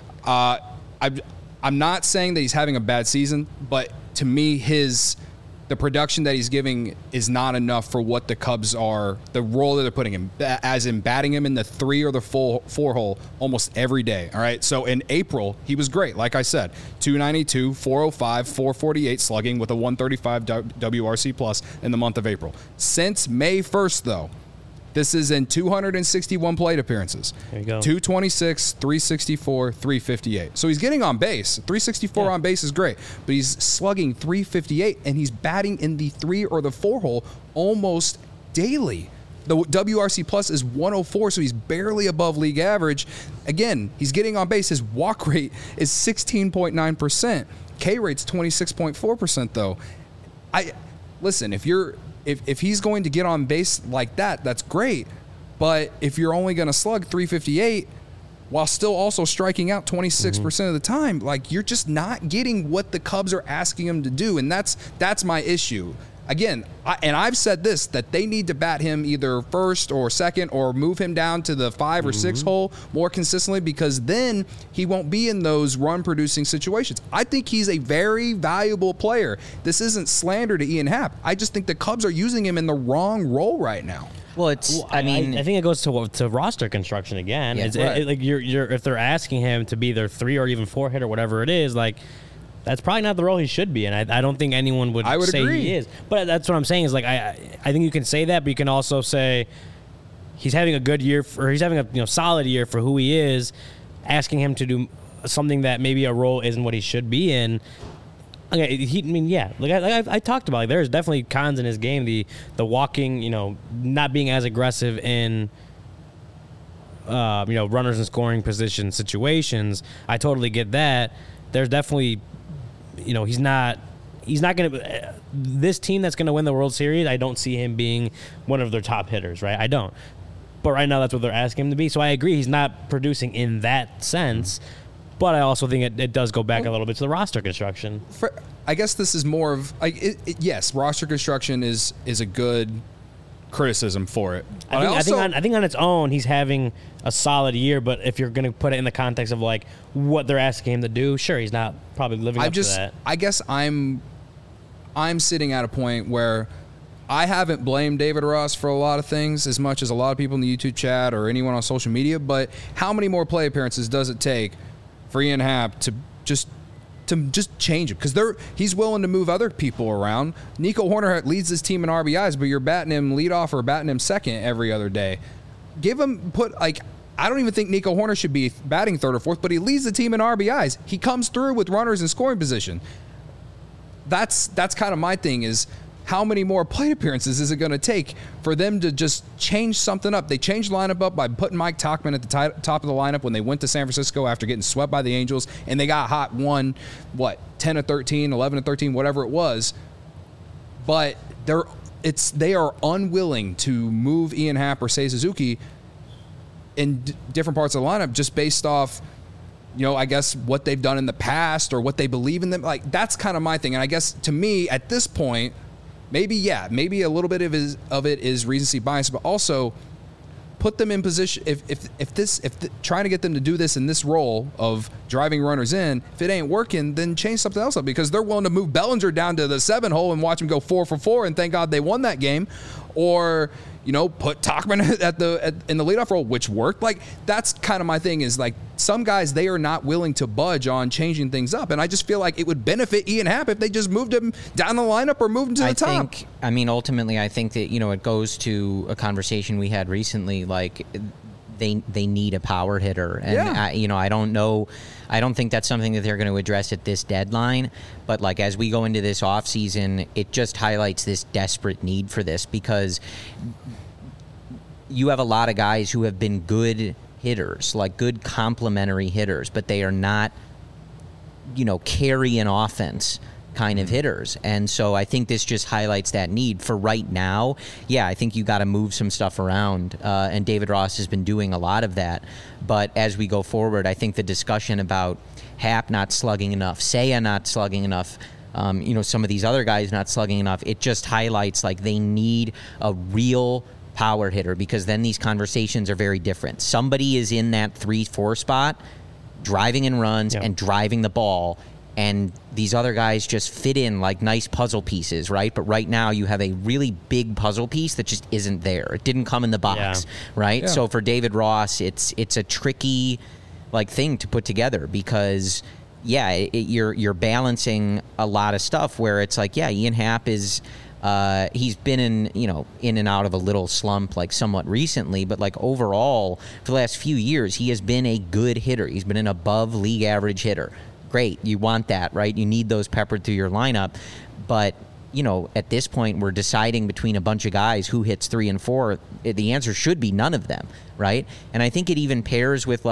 I'm not saying that he's having a bad season, but to me, the production that he's giving is not enough for what the Cubs are, the role that they're putting him, as in batting him in the 3 or the 4 hole almost every day, all right? So in April, he was great, like I said, 292, 405, 448 slugging with a 135 WRC plus in the month of April. Since May 1st, though, this is in 261 plate appearances. There you go. 226, 364, 358. So he's getting on base. 364 on base is great, but he's slugging 358, and he's batting in the 3 or the 4 hole almost daily. The WRC plus is 104, so he's barely above league average. Again, he's getting on base. His walk rate is 16.9%. K rate's 26.4%, though. Listen, if he's going to get on base like that, that's great. But if you're only going to slug 358 while still also striking out 26% of the time, like, you're just not getting what the Cubs are asking him to do. And that's my issue. Again, I've said this, that they need to bat him either first or second or move him down to the 5 or 6 hole more consistently, because then he won't be in those run-producing situations. I think he's a very valuable player. This isn't slander to Ian Happ. I just think the Cubs are using him in the wrong role right now. Well, I think it goes to roster construction again. Yeah, like if they're asking him to be their 3 or even 4 hitter, whatever it is, like, that's probably not the role he should be, and I don't think anyone would say agree. He is. But that's what I'm saying is, like, I think you can say that, but you can also say he's having a good year, or he's having a solid year for who he is. Asking him to do something that maybe a role isn't what he should be in. Okay, I talked about, like, there's definitely cons in his game. The walking, not being as aggressive in runners in scoring position situations. I totally get that. There's definitely. He's not going to. This team that's going to win the World Series, I don't see him being one of their top hitters, right? I don't. But right now, that's what they're asking him to be. So I agree, he's not producing in that sense. But I also think it does go back a little bit to the roster construction. I guess this is more of yes, roster construction is a good criticism for it. I think on its own, he's having a solid year. But if you're going to put it in the context of, like, what they're asking him to do, sure, he's not probably living up to that. I guess I'm sitting at a point where I haven't blamed David Ross for a lot of things as much as a lot of people in the YouTube chat or anyone on social media. But how many more play appearances does it take for Ian Happ to just change it? Because he's willing to move other people around. Nico Horner leads his team in RBIs, but you're batting him leadoff or batting him second every other day. I don't even think Nico Horner should be batting third or fourth, but he leads the team in RBIs. He comes through with runners in scoring position. That's kind of my thing is, how many more plate appearances is it going to take for them to just change something up? They changed the lineup up by putting Mike Tauchman at the top of the lineup when they went to San Francisco after getting swept by the Angels, and they got hot 10 of 13, 11 of 13, whatever it was. But they are unwilling to move Ian Happ or Seiya Suzuki in different parts of the lineup just based off, I guess what they've done in the past or what they believe in them. Like, that's kind of my thing. And I guess to me at this point, maybe a little bit of it is recency bias, but also put them in position. If trying to get them to do this in this role of driving runners in, if it ain't working, then change something else up, because they're willing to move Bellinger down to the 7 hole and watch him go 4 for 4 and thank God they won that game, or put Tauchman in the leadoff role, which worked. Like, that's kind of my thing, is like some guys, they are not willing to budge on changing things up. And I just feel like it would benefit Ian Happ if they just moved him down the lineup or moved him to the top. Ultimately, I think that, it goes to a conversation we had recently, like they need a power hitter. And, I don't know. I don't think that's something that they're going to address at this deadline. But, like, as we go into this offseason, it just highlights this desperate need for this, because you have a lot of guys who have been good hitters, like good complementary hitters, but they are not, carry an offense kind of hitters. And so I think this just highlights that need for right now. Yeah, I think you got to move some stuff around, and David Ross has been doing a lot of that. But as we go forward, I think the discussion about Happ not slugging enough, Seiya not slugging enough, some of these other guys not slugging enough, it just highlights like they need a real power hitter, because then these conversations are very different. Somebody is in that 3-4 spot driving in runs and driving the ball, and these other guys just fit in like nice puzzle pieces, right? But right now you have a really big puzzle piece that just isn't there. It didn't come in the box, right? Yeah. So for David Ross, it's a tricky thing to put together, because you're balancing a lot of stuff where it's like, Ian Happ is he's been in and out of a little slump somewhat recently, but overall for the last few years he has been a good hitter. He's been an above league average hitter. Great, you want that, right? You need those peppered through your lineup. But at this point we're deciding between a bunch of guys who hits 3 and 4. The answer should be none of them, right? And I think it even pairs with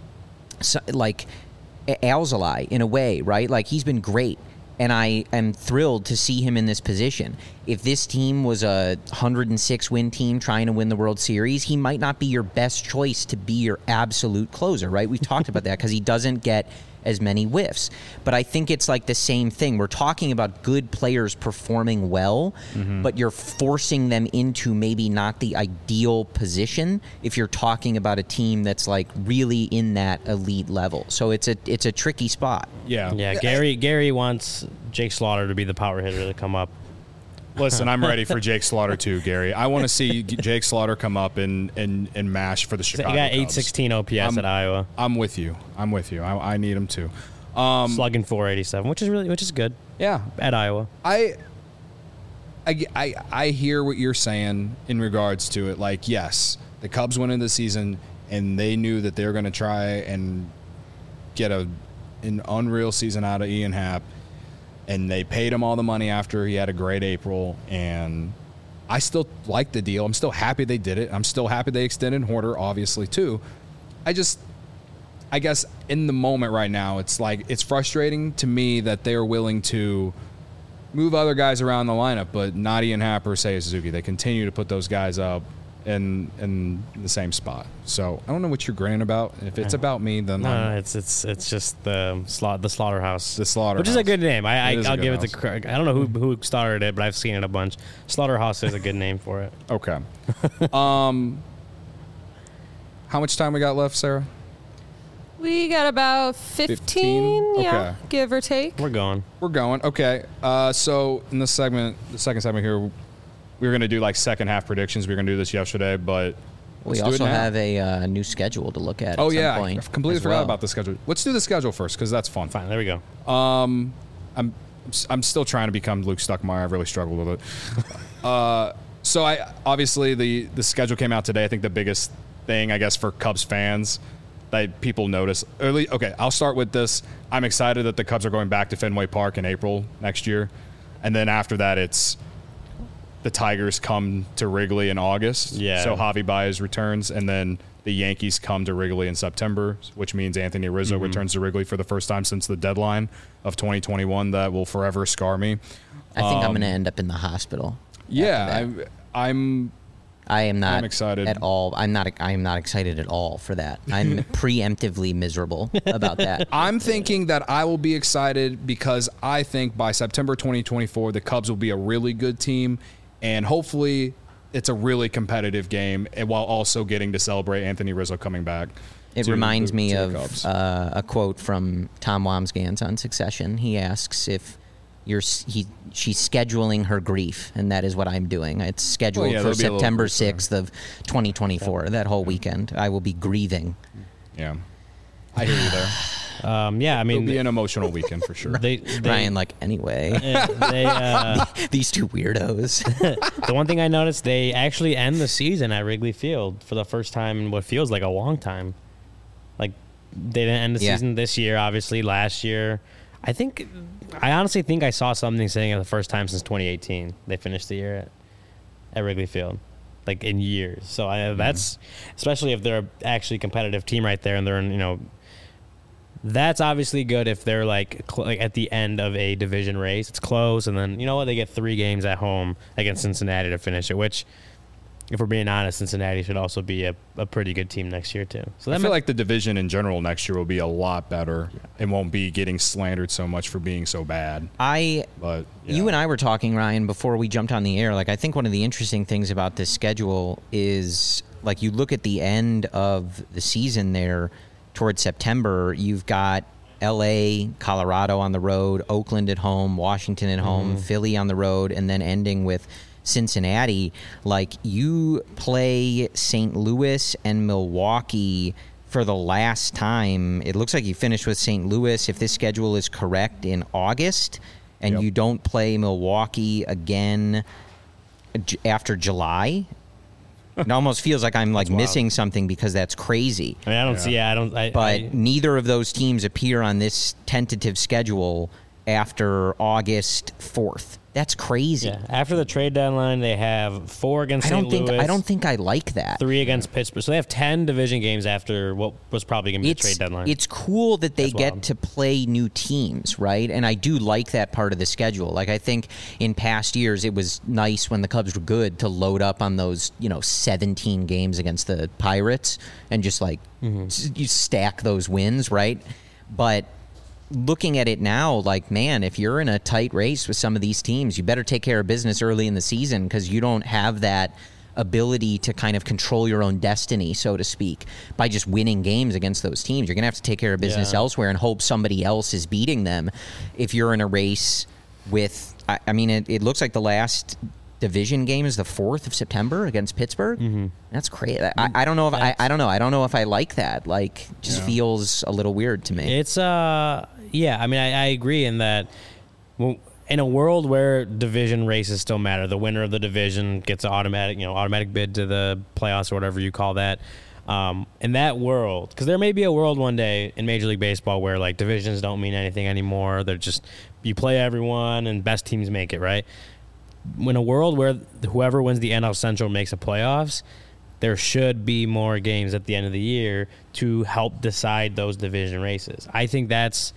Alzolay in a way, right? He's been great, and I am thrilled to see him in this position. If this team was a 106-win team trying to win the World Series, he might not be your best choice to be your absolute closer, right? We've talked about that because he doesn't get as many whiffs. But I think it's the same thing. We're talking about good players performing well, but you're forcing them into maybe not the ideal position if you're talking about a team that's really in that elite level. So it's a tricky spot. Yeah. Gary wants Jake Slaughter to be the power hitter to come up. Listen, I'm ready for Jake Slaughter too, Gary. I want to see Jake Slaughter come up and mash for the Chicago Cubs. He got 816 OPS at Iowa. I'm with you. I need him too. Slugging 487, which is good. Yeah, at Iowa. I hear what you're saying in regards to it. Yes, the Cubs went into the season and they knew that they were going to try and get an unreal season out of Ian Happ. And they paid him all the money after he had a great April, and I still like the deal. I'm still happy they did it. I'm still happy they extended Horter, obviously, too. I guess in the moment right now, it's frustrating to me that they're willing to move other guys around the lineup, but not Ian Happ or Seiya Suzuki. They continue to put those guys up in the same spot. So I don't know what you're grinning about. If it's about me, then no, it's just the Slaughterhouse. The Slaughterhouse, which is a good name. I'll give it to. I don't know who started it, but I've seen it a bunch. Slaughterhouse is a good name for it. Okay. How much time we got left, Sarah? We got about 15? Yeah, okay. Give or take. We're going. Okay. So in the second segment here, we were going to do second half predictions. We were going to do this yesterday, but we also have a new schedule to look at. Oh, some yeah. point I completely forgot about the schedule. Let's do the schedule first, because that's fun. Fine. There we go. I'm still trying to become Luke Stuckmeyer. I've really struggled with it. So obviously the schedule came out today. I think the biggest thing, I guess, for Cubs fans that people notice early. Okay, I'll start with this. I'm excited that the Cubs are going back to Fenway Park in April next year, and then after that, it's the Tigers come to Wrigley in August. Yeah. So Javi Baez returns, and then the Yankees come to Wrigley in September, which means Anthony Rizzo returns to Wrigley for the first time since the deadline of 2021. That will forever scar me. I think I'm going to end up in the hospital. Yeah, I am not excited at all. I am not excited at all for that. I'm preemptively miserable about that. I'm thinking that I will be excited because I think by September 2024, the Cubs will be a really good team, and hopefully it's a really competitive game, and while also getting to celebrate Anthony Rizzo coming back. It reminds me of a quote from Tom Wamsgans on Succession. He asks if she's scheduling her grief, and that is what I'm doing. It's scheduled for September 6th of 2024. That whole weekend, I will be grieving. Yeah, I hear you there. I mean, it'll be an emotional weekend for sure. Ryan, anyway, these two weirdos. The one thing I noticed, they actually end the season at Wrigley Field for the first time in what feels like a long time. Like, they didn't end the season this year, obviously. Last year, I honestly think I saw something saying it the first time since 2018. They finished the year at Wrigley Field, in years. So that's, especially if they're actually a competitive team right there, and they're in, that's obviously good if they're at the end of a division race. It's close, and then they get 3 games at home against Cincinnati to finish it. Which, if we're being honest, Cincinnati should also be a pretty good team next year too. So I feel like the division in general next year will be a lot better. It won't be getting slandered so much for being so bad. You and I were talking, Ryan, before we jumped on the air. I think one of the interesting things about this schedule is you look at the end of the season there. Towards September, you've got L.A., Colorado on the road, Oakland at home, Washington at home, Philly on the road, and then ending with Cincinnati. You play St. Louis and Milwaukee for the last time. It looks like you finished with St. Louis, if this schedule is correct, in August, and you don't play Milwaukee again after July. It almost feels like I'm missing something because that's crazy. I mean, I don't see. But neither of those teams appear on this tentative schedule after August 4th. That's crazy. Yeah. After the trade deadline, they have 4 against St. Louis. I don't think I like that. 3 against Pittsburgh. So they have 10 division games after what was probably going to be the trade deadline. It's cool that they get to play new teams, right? And I do like that part of the schedule. I think in past years, it was nice when the Cubs were good to load up on those, 17 games against the Pirates and just you stack those wins, right? But looking at it now, man, if you're in a tight race with some of these teams, you better take care of business early in the season because you don't have that ability to kind of control your own destiny, so to speak, by just winning games against those teams. You're going to have to take care of business elsewhere and hope somebody else is beating them. If you're in a race with, it looks like the last division game is the 4th of September against Pittsburgh. That's crazy. I don't know if I don't know. I don't know if I like that. Feels a little weird to me. It's I agree in that. In a world where division races still matter, the winner of the division gets an automatic bid to the playoffs or whatever you call that. In that world, because there may be a world one day in Major League Baseball where divisions don't mean anything anymore. They're just you play everyone and best teams make it, right? In a world where whoever wins the NL Central makes the playoffs, there should be more games at the end of the year to help decide those division races. I think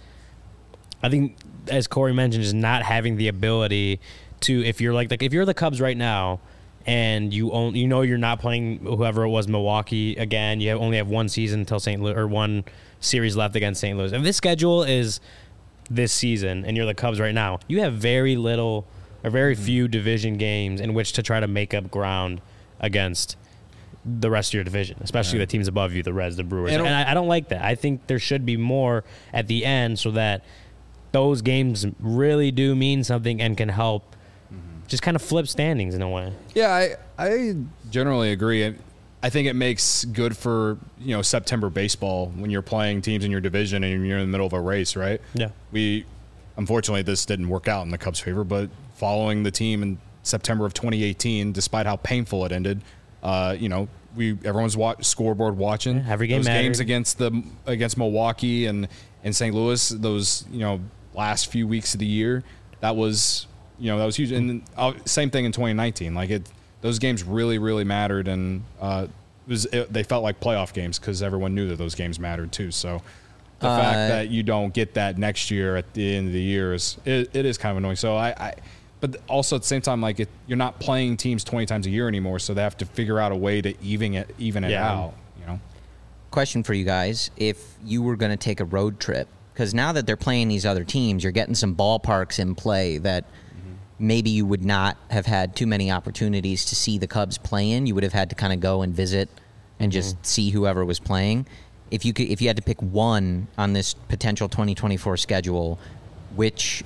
as Corey mentioned, is not having the ability to, if you're if you're the Cubs right now and you're not playing whoever it was, Milwaukee again, you only have one season until St. Louis, or one series left against St. Louis. If this schedule is this season and you're the Cubs right now, you have very few division games in which to try to make up ground against the rest of your division, especially the teams above you, the Reds, the Brewers. And I don't like that. I think there should be more at the end so that those games really do mean something and can help just kind of flip standings in a way. Yeah, I generally agree. I think it makes good for September baseball when you're playing teams in your division and you're in the middle of a race, right? Yeah. Unfortunately, this didn't work out in the Cubs' favor, but following the team in September of 2018, despite how painful it ended, everyone's scoreboard watching every game those games against Milwaukee and St. Louis. Those last few weeks of the year, that was that was huge. And same thing in 2019. Like those games really, really mattered, and they felt like playoff games because everyone knew that those games mattered too. So the fact that you don't get that next year at the end of the year it is kind of annoying. So but also at the same time, like you're not playing teams 20 times a year anymore, so they have to figure out a way to even it out. Question for you guys: if you were going to take a road trip, because now that they're playing these other teams, you're getting some ballparks in play that maybe you would not have had too many opportunities to see the Cubs play in. You would have had to kind of go and visit and just see whoever was playing. If you had to pick one on this potential 2024 schedule, which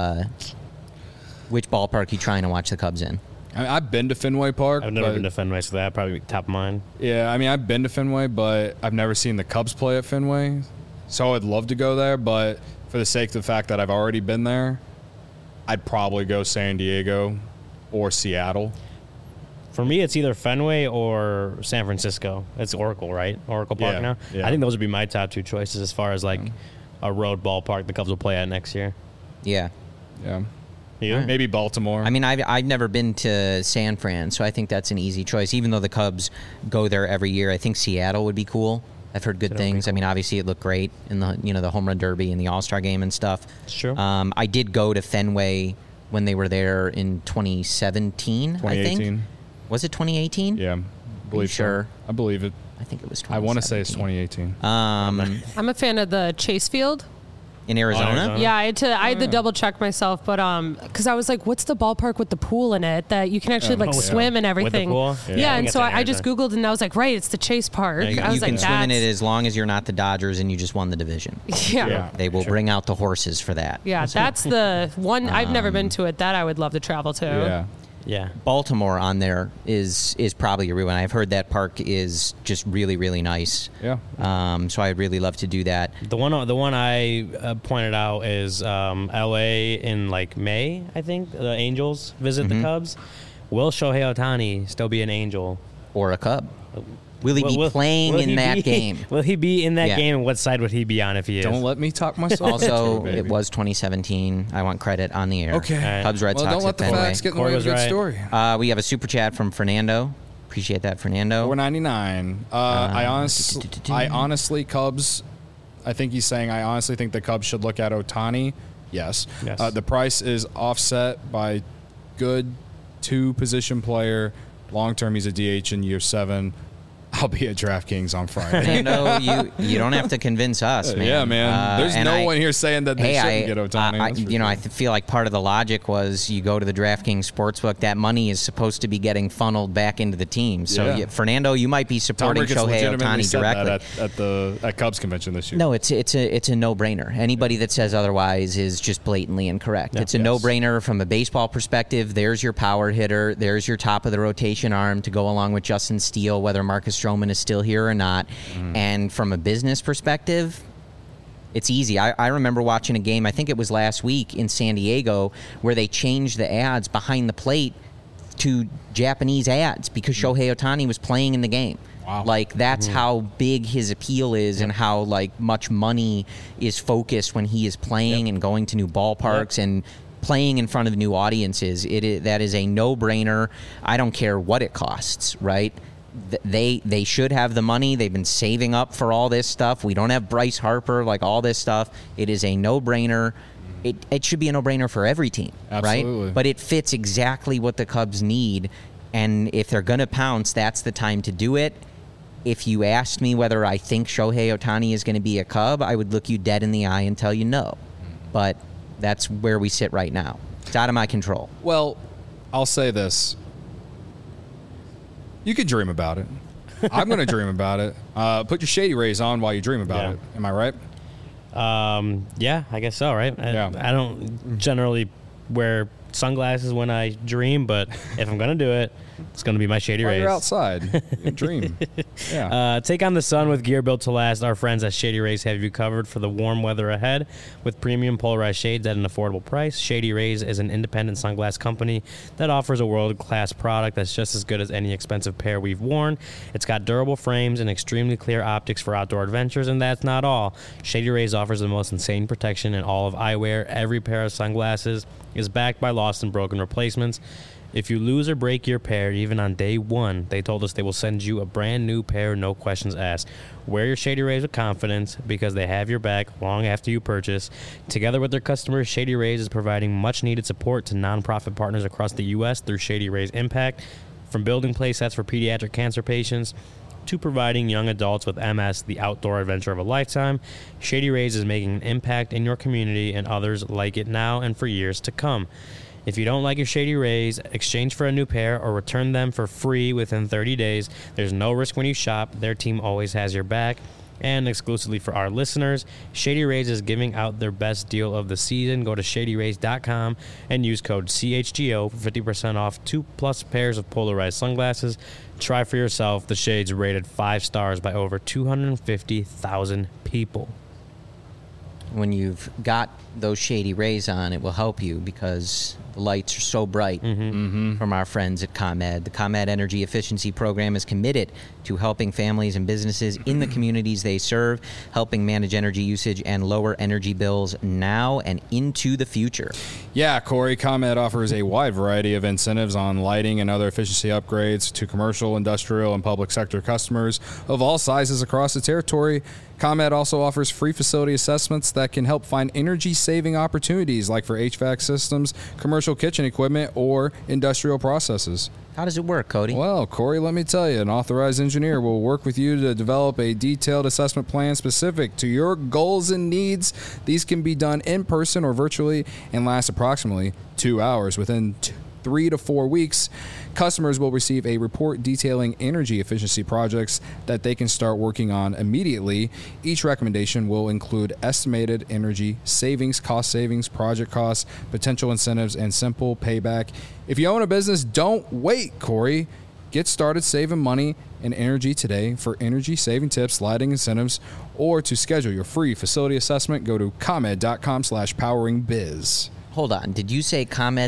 ballpark are you trying to watch the Cubs in? I've been to Fenway Park. I've never been to Fenway, so that'd probably be top of mind. Yeah, I mean, I've been to Fenway, but I've never seen the Cubs play at Fenway. So I'd love to go there, but for the sake of the fact that I've already been there, I'd probably go San Diego or Seattle. For me, it's either Fenway or San Francisco. It's Oracle, right? Oracle Park now. Yeah. I think those would be my top two choices as far as like a road ballpark the Cubs will play at next year. Yeah. Yeah. You? Maybe Baltimore. I mean, I've never been to San Fran, so I think that's an easy choice. Even though the Cubs go there every year, I think Seattle would be cool. I've heard good things. Cool. I mean, obviously it looked great in the home run derby and the All-Star game and stuff. It's true. I did go to Fenway when they were there in 2017, 2018. I think. Was it 2018? Yeah. Sure. I believe it. I think it was 2017. I want to say it's 2018. I'm a fan of the Chase Field. In Arizona? Yeah, I had to double check myself, but because I was like, what's the ballpark with the pool in it that you can actually swim and everything? With the pool? Yeah, and so I just Googled and I was like, right, it's the Chase Park. You can swim in it as long as you're not the Dodgers and you just won the division. Yeah. They will bring out the horses for that. Yeah, that's the one. I've never been to it. That I would love to travel to. Yeah. Yeah, Baltimore on there is probably a real one. I've heard that park is just really, really nice. Yeah. So I'd really love to do that. The one I pointed out is L.A. in like May. I think the Angels visit the Cubs. Will Shohei Ohtani still be an Angel or a Cub? Will he be playing in that game? Will he be in that game, and what side would he be on if he is? Don't let me talk myself. Also, it was 2017. I want credit on the air. Okay. Cubs, Red Sox. Don't let the facts get in the way of a good story. We have a super chat from Fernando. Appreciate that, Fernando. $4.99. I honestly, Cubs. I think he's saying I honestly think the Cubs should look at Ohtani. Yes. The price is offset by good 2-position player. Long term, he's a DH in year 7. I'll be at DraftKings on Friday. No, you don't have to convince us, man. Yeah, man. There's no one here saying that they shouldn't get Ohtani. I feel like part of the logic was you go to the DraftKings sportsbook, that money is supposed to be getting funneled back into the team. So, Fernando, you might be supporting Shohei Ohtani directly. At Cubs convention this year. No, it's a no-brainer. Anybody that says otherwise is just blatantly incorrect. It's a no-brainer from a baseball perspective. There's your power hitter. There's your top of the rotation arm to go along with Justin Steele, whether Marcus Stroman is still here or not. And from a business perspective, it's easy. I remember watching a game, I think it was last week in San Diego, where they changed the ads behind the plate to Japanese ads because Shohei Ohtani was playing in the game. Wow. Like, that's how big his appeal is and how, like, much money is focused when he is playing and going to new ballparks and playing in front of new audiences. That is a no-brainer. I don't care what it costs, right? They should have the money. They've been saving up for all this stuff. We don't have Bryce Harper, like all this stuff. It is a no-brainer. It should be a no-brainer for every team, Absolutely. Right? But it fits exactly what the Cubs need. And if they're going to pounce, that's the time to do it. If you asked me whether I think Shohei Ohtani is going to be a Cub, I would look you dead in the eye and tell you no. But that's where we sit right now. It's out of my control. Well, I'll say this. You can dream about it. I'm going to dream about it. Put your Shady Rays on while you dream about it. Am I right? Yeah, I guess so, right? I don't generally wear sunglasses when I dream, but if I'm going to do it, it's going to be my Shady Rays. You're outside. You dream. Yeah. Take on the sun with gear built to last. Our friends at Shady Rays have you covered for the warm weather ahead with premium polarized shades at an affordable price. Shady Rays is an independent sunglass company that offers a world-class product that's just as good as any expensive pair we've worn. It's got durable frames and extremely clear optics for outdoor adventures, and that's not all. Shady Rays offers the most insane protection in all of eyewear. Every pair of sunglasses is backed by law lost and broken replacements. If you lose or break your pair, even on day one, they told us they will send you a brand new pair, no questions asked. Wear your Shady Rays with confidence because they have your back long after you purchase. Together with their customers, Shady Rays is providing much-needed support to nonprofit partners across the U.S. through Shady Rays Impact, from building play sets for pediatric cancer patients to providing young adults with MS the outdoor adventure of a lifetime. Shady Rays is making an impact in your community and others like it now and for years to come. If you don't like your Shady Rays, exchange for a new pair or return them for free within 30 days. There's no risk when you shop. Their team always has your back. And exclusively for our listeners, Shady Rays is giving out their best deal of the season. Go to ShadyRays.com and use code CHGO for 50% off 2+ pairs of polarized sunglasses. Try for yourself. The shades rated 5 stars by over 250,000 people. When you've got those Shady Rays on, it will help you because the lights are so bright from our friends at ComEd. The ComEd Energy Efficiency Program is committed to helping families and businesses in the communities they serve, helping manage energy usage and lower energy bills now and into the future. Yeah, Corey, ComEd offers a wide variety of incentives on lighting and other efficiency upgrades to commercial, industrial, and public sector customers of all sizes across the territory. ComEd also offers free facility assessments that can help find energy-saving opportunities like for HVAC systems, commercial kitchen equipment, or industrial processes. How does it work, Cody? Well, Corey, let me tell you, an authorized engineer will work with you to develop a detailed assessment plan specific to your goals and needs. These can be done in person or virtually and last approximately 2 hours. Within 3 to 4 weeks, customers will receive a report detailing energy efficiency projects that they can start working on immediately. Each recommendation will include estimated energy savings, cost savings, project costs, potential incentives, and simple payback. If you own a business, don't wait, Corey. Get started saving money and energy today. For energy saving tips, lighting incentives, or to schedule your free facility assessment, go to ComEd.com/poweringbiz. Hold on. Did you say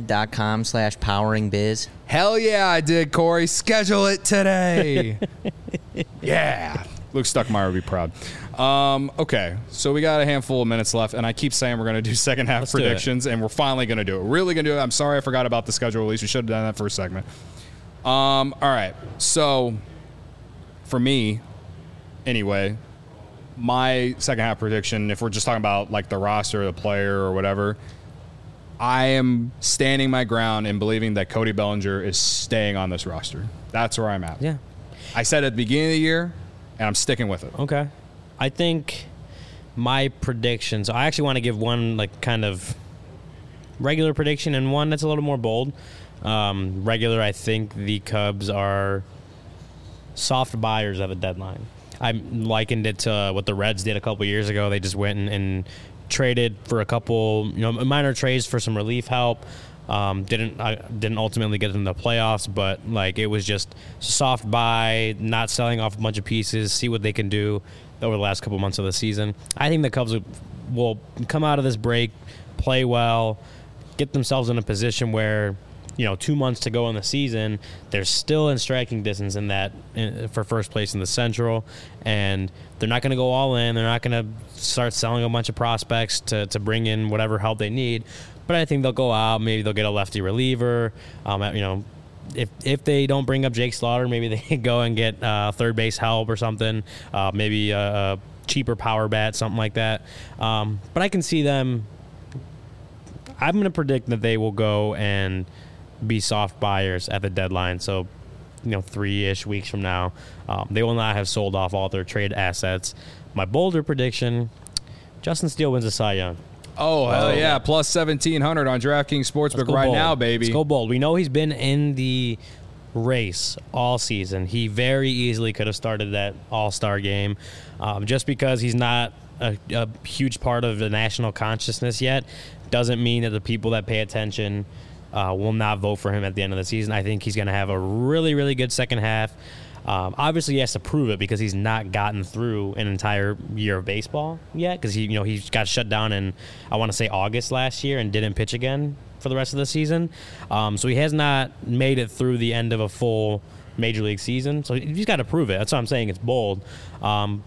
ComEd.com/poweringbiz? Hell yeah, I did, Corey. Schedule it today. Yeah. Luke Stuckmeyer would be proud. Okay, so we got a handful of minutes left, and I keep saying we're going to do second half predictions, and we're finally going to do it. We're really going to do it. I'm sorry I forgot about the schedule release. We should have done that first segment. All right, so for me, anyway, my second half prediction, if we're just talking about like the roster, the player, or whatever, I am standing my ground and believing that Cody Bellinger is staying on this roster. That's where I'm at. Yeah. I said at the beginning of the year, and I'm sticking with it. Okay. I think my predictions, I actually want to give one like kind of regular prediction and one that's a little more bold. Regular, I think the Cubs are soft buyers at the deadline. I likened it to what the Reds did a couple years ago. They just went and traded for a couple, minor trades for some relief help. Didn't ultimately get in the playoffs, but like it was just soft buy, not selling off a bunch of pieces, see what they can do over the last couple months of the season. I think the Cubs will come out of this break, play well, get themselves in a position where 2 months to go in the season, they're still in striking distance for first place in the Central, and they're not going to go all in. They're not going to start selling a bunch of prospects to bring in whatever help they need. But I think they'll go out. Maybe they'll get a lefty reliever. If they don't bring up Jake Slaughter, maybe they can go and get third base help or something. Maybe a cheaper power bat, something like that. But I can see them. I'm going to predict that they will go and be soft buyers at the deadline. So, 3-ish weeks from now, they will not have sold off all their trade assets. My bolder prediction: Justin Steele wins the Cy Young. Oh, hell yeah. Plus 1,700 on DraftKings Sportsbook right now, baby. Let's go bold. We know he's been in the race all season. He very easily could have started that All-Star game. Just because he's not a huge part of the national consciousness yet doesn't mean that the people that pay attention will not vote for him at the end of the season. I think he's going to have a really, really good second half. Obviously, he has to prove it because he's not gotten through an entire year of baseball yet because he got shut down in, I want to say, August last year and didn't pitch again for the rest of the season. So he has not made it through the end of a full major league season. So he's got to prove it. That's what I'm saying. It's bold. But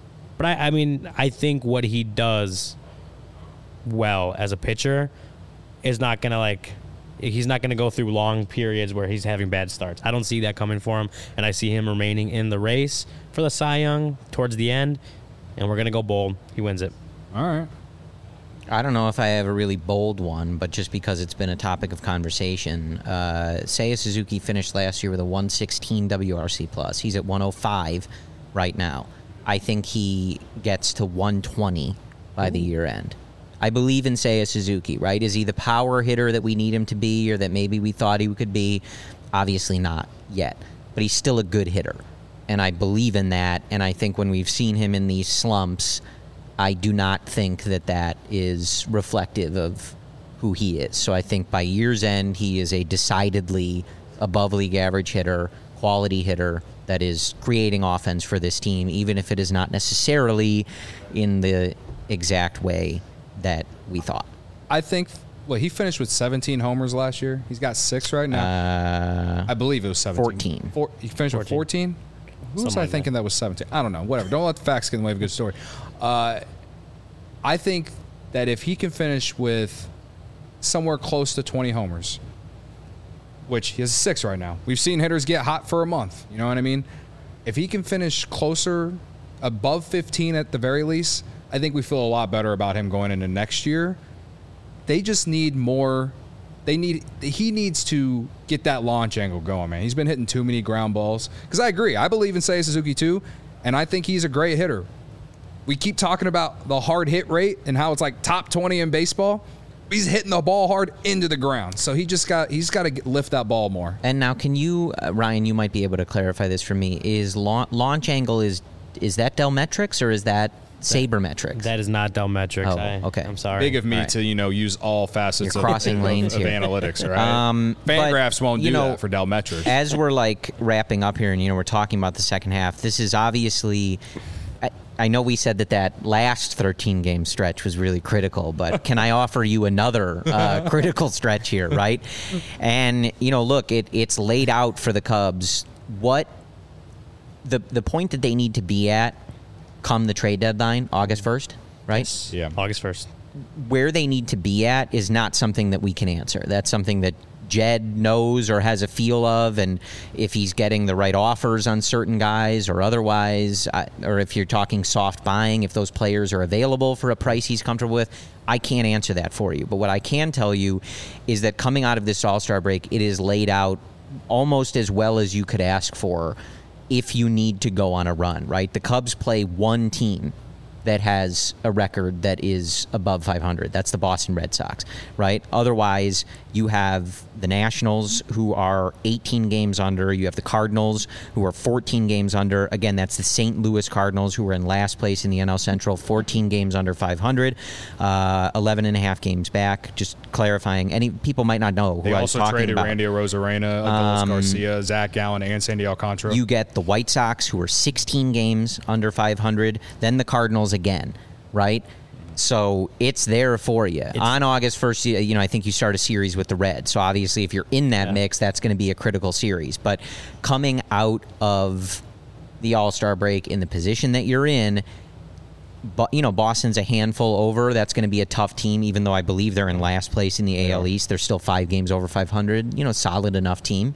I think what he does well as a pitcher is not going to he's not going to go through long periods where he's having bad starts. I don't see that coming for him, and I see him remaining in the race for the Cy Young towards the end, and we're going to go bold. He wins it. All right. I don't know if I have a really bold one, but just because it's been a topic of conversation, Seiya Suzuki finished last year with a 116 WRC plus. He's at 105 right now. I think he gets to 120 by the year end. I believe in Seiya Suzuki, right? Is he the power hitter that we need him to be, or that maybe we thought he could be? Obviously not yet, but he's still a good hitter, and I believe in that. And I think when we've seen him in these slumps, I do not think that is reflective of who he is. So I think by year's end, he is a decidedly above league average hitter, quality hitter that is creating offense for this team, even if it is not necessarily in the exact way that we thought. I think, he finished with 17 homers last year. He's got 6 right now. I believe it was 17. 14. He finished with 14? Who was I thinking that was 17? I don't know. Whatever. Don't let the facts get in the way of a good story. I think that if he can finish with somewhere close to 20 homers, which he has 6 right now. We've seen hitters get hot for a month. You know what I mean? If he can finish closer, above 15 at the very least, I think we feel a lot better about him going into next year. They just need more. He needs to get that launch angle going, man. He's been hitting too many ground balls. Because I agree. I believe in Seiya Suzuki too, and I think he's a great hitter. We keep talking about the hard hit rate and how it's like top 20 in baseball. He's hitting the ball hard into the ground. So he's got to lift that ball more. And now can you, Ryan, you might be able to clarify this for me. Is launch angle, is that Delmetrics or is that Sabermetrics? That is not Delmetrics. Okay. I'm sorry. Big of me to use all facets of analytics, right? Fangraphs won't do that for Delmetrics. As we're wrapping up here and we're talking about the second half, this is obviously, I know we said that last 13-game stretch was really critical, but can I offer you another critical stretch here, right? And, look, it's laid out for the Cubs what the point that they need to be at come the trade deadline, August 1st, right? Yes. Yeah, August 1st. Where they need to be at is not something that we can answer. That's something that Jed knows or has a feel of, and if he's getting the right offers on certain guys or otherwise, or if you're talking soft buying, if those players are available for a price he's comfortable with, I can't answer that for you. But what I can tell you is that coming out of this All-Star break, it is laid out almost as well as you could ask for if you need to go on a run, right? The Cubs play one team that has a record that is above 500. That's the Boston Red Sox, right? Otherwise, you have the Nationals, who are 18 games under. You have the Cardinals, who are 14 games under. Again, that's the St. Louis Cardinals, who are in last place in the NL Central, 14 games under 500, 11 and a half games back. Just clarifying, any people might not know who I was talking about. They also traded Randy Arozarena, Adolis Garcia, Zach Gallen, and Sandy Alcantara. You get the White Sox, who are 16 games under 500, then the Cardinals again, right? So it's there for you. On August 1st, I think you start a series with the Reds. So obviously if you're in that mix, that's going to be a critical series. But coming out of the All-Star break in the position that you're in, Boston's a handful over. That's going to be a tough team, even though I believe they're in last place in the AL East. They're still 5 games over 500. Solid enough team.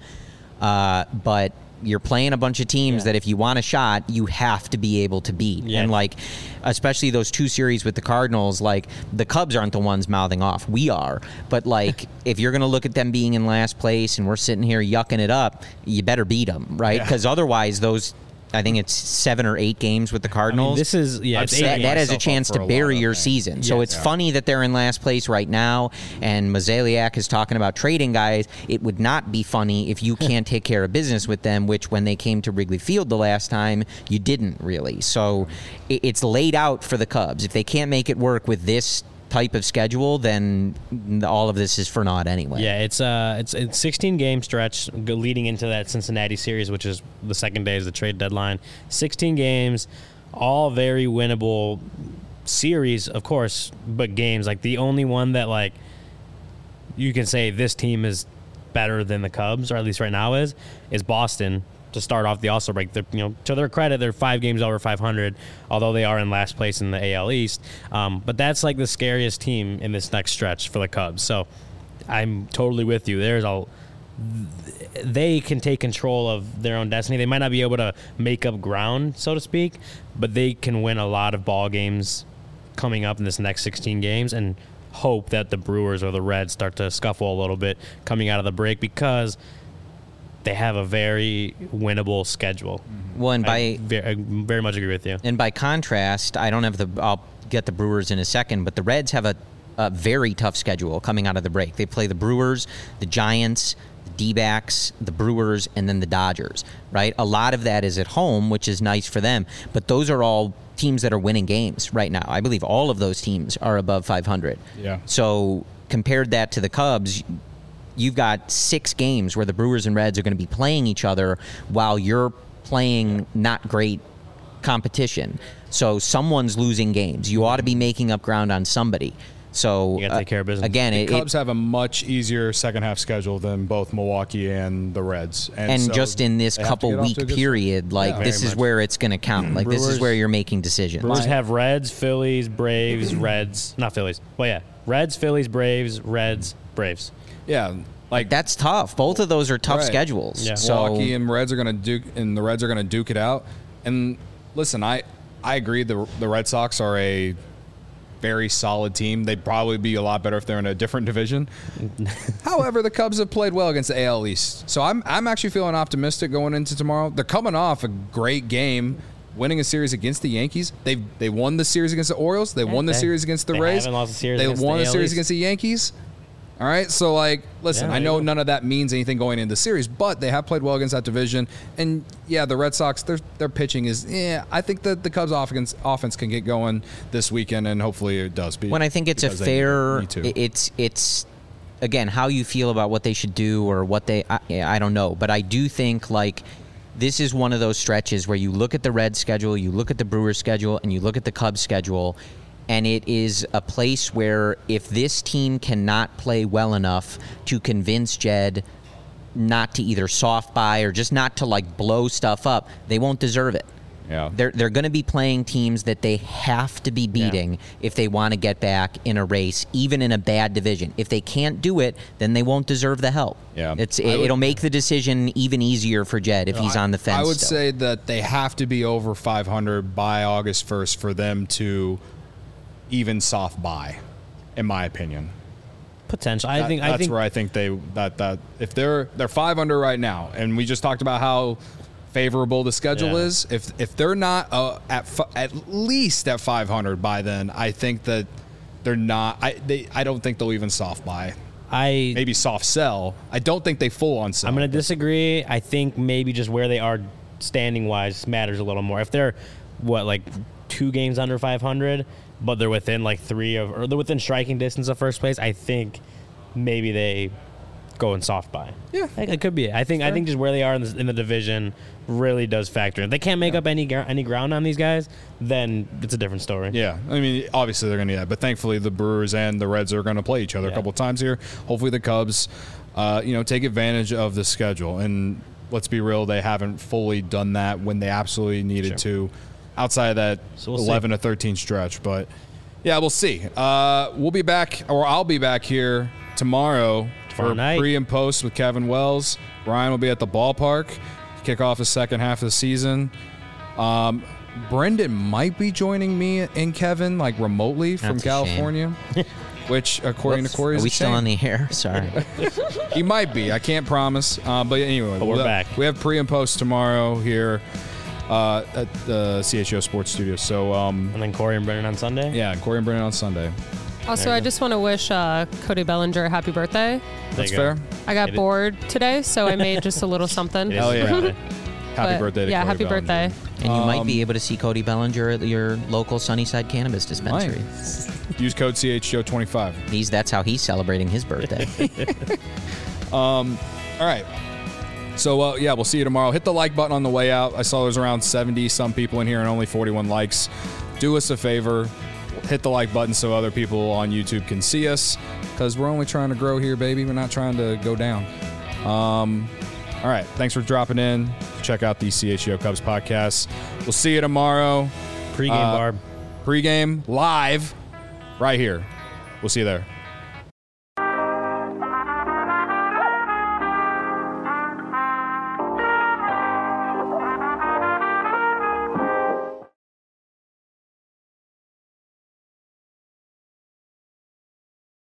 But you're playing a bunch of teams that if you want a shot, you have to be able to beat. Yeah. And especially those 2 series with the Cardinals, the Cubs aren't the ones mouthing off. We are. But if you're going to look at them being in last place and we're sitting here yucking it up, you better beat them, right? Because otherwise those, I think it's 7 or 8 games with the Cardinals. This is that has a chance to bury your season. Yes. So it's funny that they're in last place right now, and Mozeliak is talking about trading guys. It would not be funny if you can't take care of business with them, which when they came to Wrigley Field the last time, you didn't really. So it's laid out for the Cubs. If they can't make it work with this type of schedule, then all of this is for naught anyway. Yeah, it's 16-game stretch leading into that Cincinnati series, which is the second day is the trade deadline. 16 games, all very winnable series, of course, but games. The only one that you can say this team is better than the Cubs, or at least right now is Boston. To start off the All-Star break, to their credit, they're 5 games over 500, although they are in last place in the AL East. But that's the scariest team in this next stretch for the Cubs. So I'm totally with you. They can take control of their own destiny. They might not be able to make up ground, so to speak, but they can win a lot of ball games coming up in this next 16 games and hope that the Brewers or the Reds start to scuffle a little bit coming out of the break, because they have a very winnable schedule. Well, and I very much agree with you. And by contrast, I'll get the Brewers in a second, but the Reds have a very tough schedule coming out of the break. They play the Brewers, the Giants, the D-backs, the Brewers, and then the Dodgers, right? A lot of that is at home, which is nice for them, but those are all teams that are winning games right now. I believe all of those teams are above 500. Yeah. So compared that to the Cubs, you've got 6 games where the Brewers and Reds are going to be playing each other while you're playing not great competition. So someone's losing games. You ought to be making up ground on somebody. So you got to take care of business. Again, the Cubs have a much easier second half schedule than both Milwaukee and the Reds. And so just in this couple week period, this is where it's going to count. Like Brewers, this is where you're making decisions. Brewers have Reds, Phillies, Braves, Reds. Not Phillies. Well, yeah. Reds, Phillies, Braves, Reds, Braves. Yeah. Like that's tough. Both of those are tough schedules. Yeah. So Milwaukee and Reds are going to duke it out. And listen, I agree. The Red Sox are a very solid team. They'd probably be a lot better if they're in a different division. However, the Cubs have played well against the AL East, so I'm actually feeling optimistic going into tomorrow. They're coming off a great game, winning a series against the Yankees. They won the series against the Orioles. They won the series against the Rays. They won the series against the Yankees. All right, so listen, I know none of that means anything going into the series, but they have played well against that division. And yeah, the Red Sox, their pitching is, I think that the Cubs offense can get going this weekend, and hopefully it does. When I think it's a fair, it's again how you feel about what they should do or what I don't know, but I do think this is one of those stretches where you look at the Reds schedule, you look at the Brewers schedule, and you look at the Cubs schedule. And it is a place where if this team cannot play well enough to convince Jed not to either soft buy or just not to blow stuff up, they won't deserve it. Yeah. They're going to be playing teams that they have to be beating if they want to get back in a race, even in a bad division. If they can't do it, then they won't deserve the help. Yeah. It'll make the decision even easier for Jed if he's on the fence. I would say that they have to be over 500 by August 1st for them to even soft buy, in my opinion. Potential. That's where I think that if they're 5 under right now, and we just talked about how favorable the schedule is. If they're not at least at 500 by then, I think that they're not. I don't think they'll even soft buy. Maybe soft sell. I don't think they full on sell. I'm going to disagree. I think maybe just where they are standing wise matters a little more. If they're 2 games under 500. But they're within 3 or they're within striking distance of first place, I think maybe they go and soft buy. Yeah, it could be it. I think just where they are in the division really does factor in. If they can't make up any ground on these guys, then it's a different story. Yeah, I mean, obviously they're going to do that, but thankfully the Brewers and the Reds are going to play each other a couple times here. Hopefully the Cubs, take advantage of the schedule. And let's be real, they haven't fully done that when they absolutely needed to. Outside of that 11 to 13 stretch. But, yeah, we'll see. We'll be back, or I'll be back here tomorrow for pre and post with Kevin Wells. Brian will be at the ballpark to kick off the second half of the season. Brendan might be joining me and Kevin, remotely from California. Which, according to Corey, is Are we still on the air? Sorry. He might be. I can't promise. But anyway, we're back. We have pre and post tomorrow here. At the CHO Sports Studio. So, and then Corey and Brennan on Sunday? Yeah, Corey and Brennan on Sunday. Also, I just want to wish Cody Bellinger a happy birthday. That's fair. I got bored today, so I made just a little something. Hell yeah. Happy birthday to Cody happy Bellinger. birthday. And you might be able to see Cody Bellinger at your local Sunnyside Cannabis Dispensary. Use code CHO25. That's how he's celebrating his birthday. All right. So, we'll see you tomorrow. Hit the like button on the way out. I saw there's around 70-some people in here and only 41 likes. Do us a favor. Hit the like button so other people on YouTube can see us, because we're only trying to grow here, baby. We're not trying to go down. All right. Thanks for dropping in. Check out the CHGO Cubs podcast. We'll see you tomorrow. Pre-game, Barb. Pre-game live right here. We'll see you there.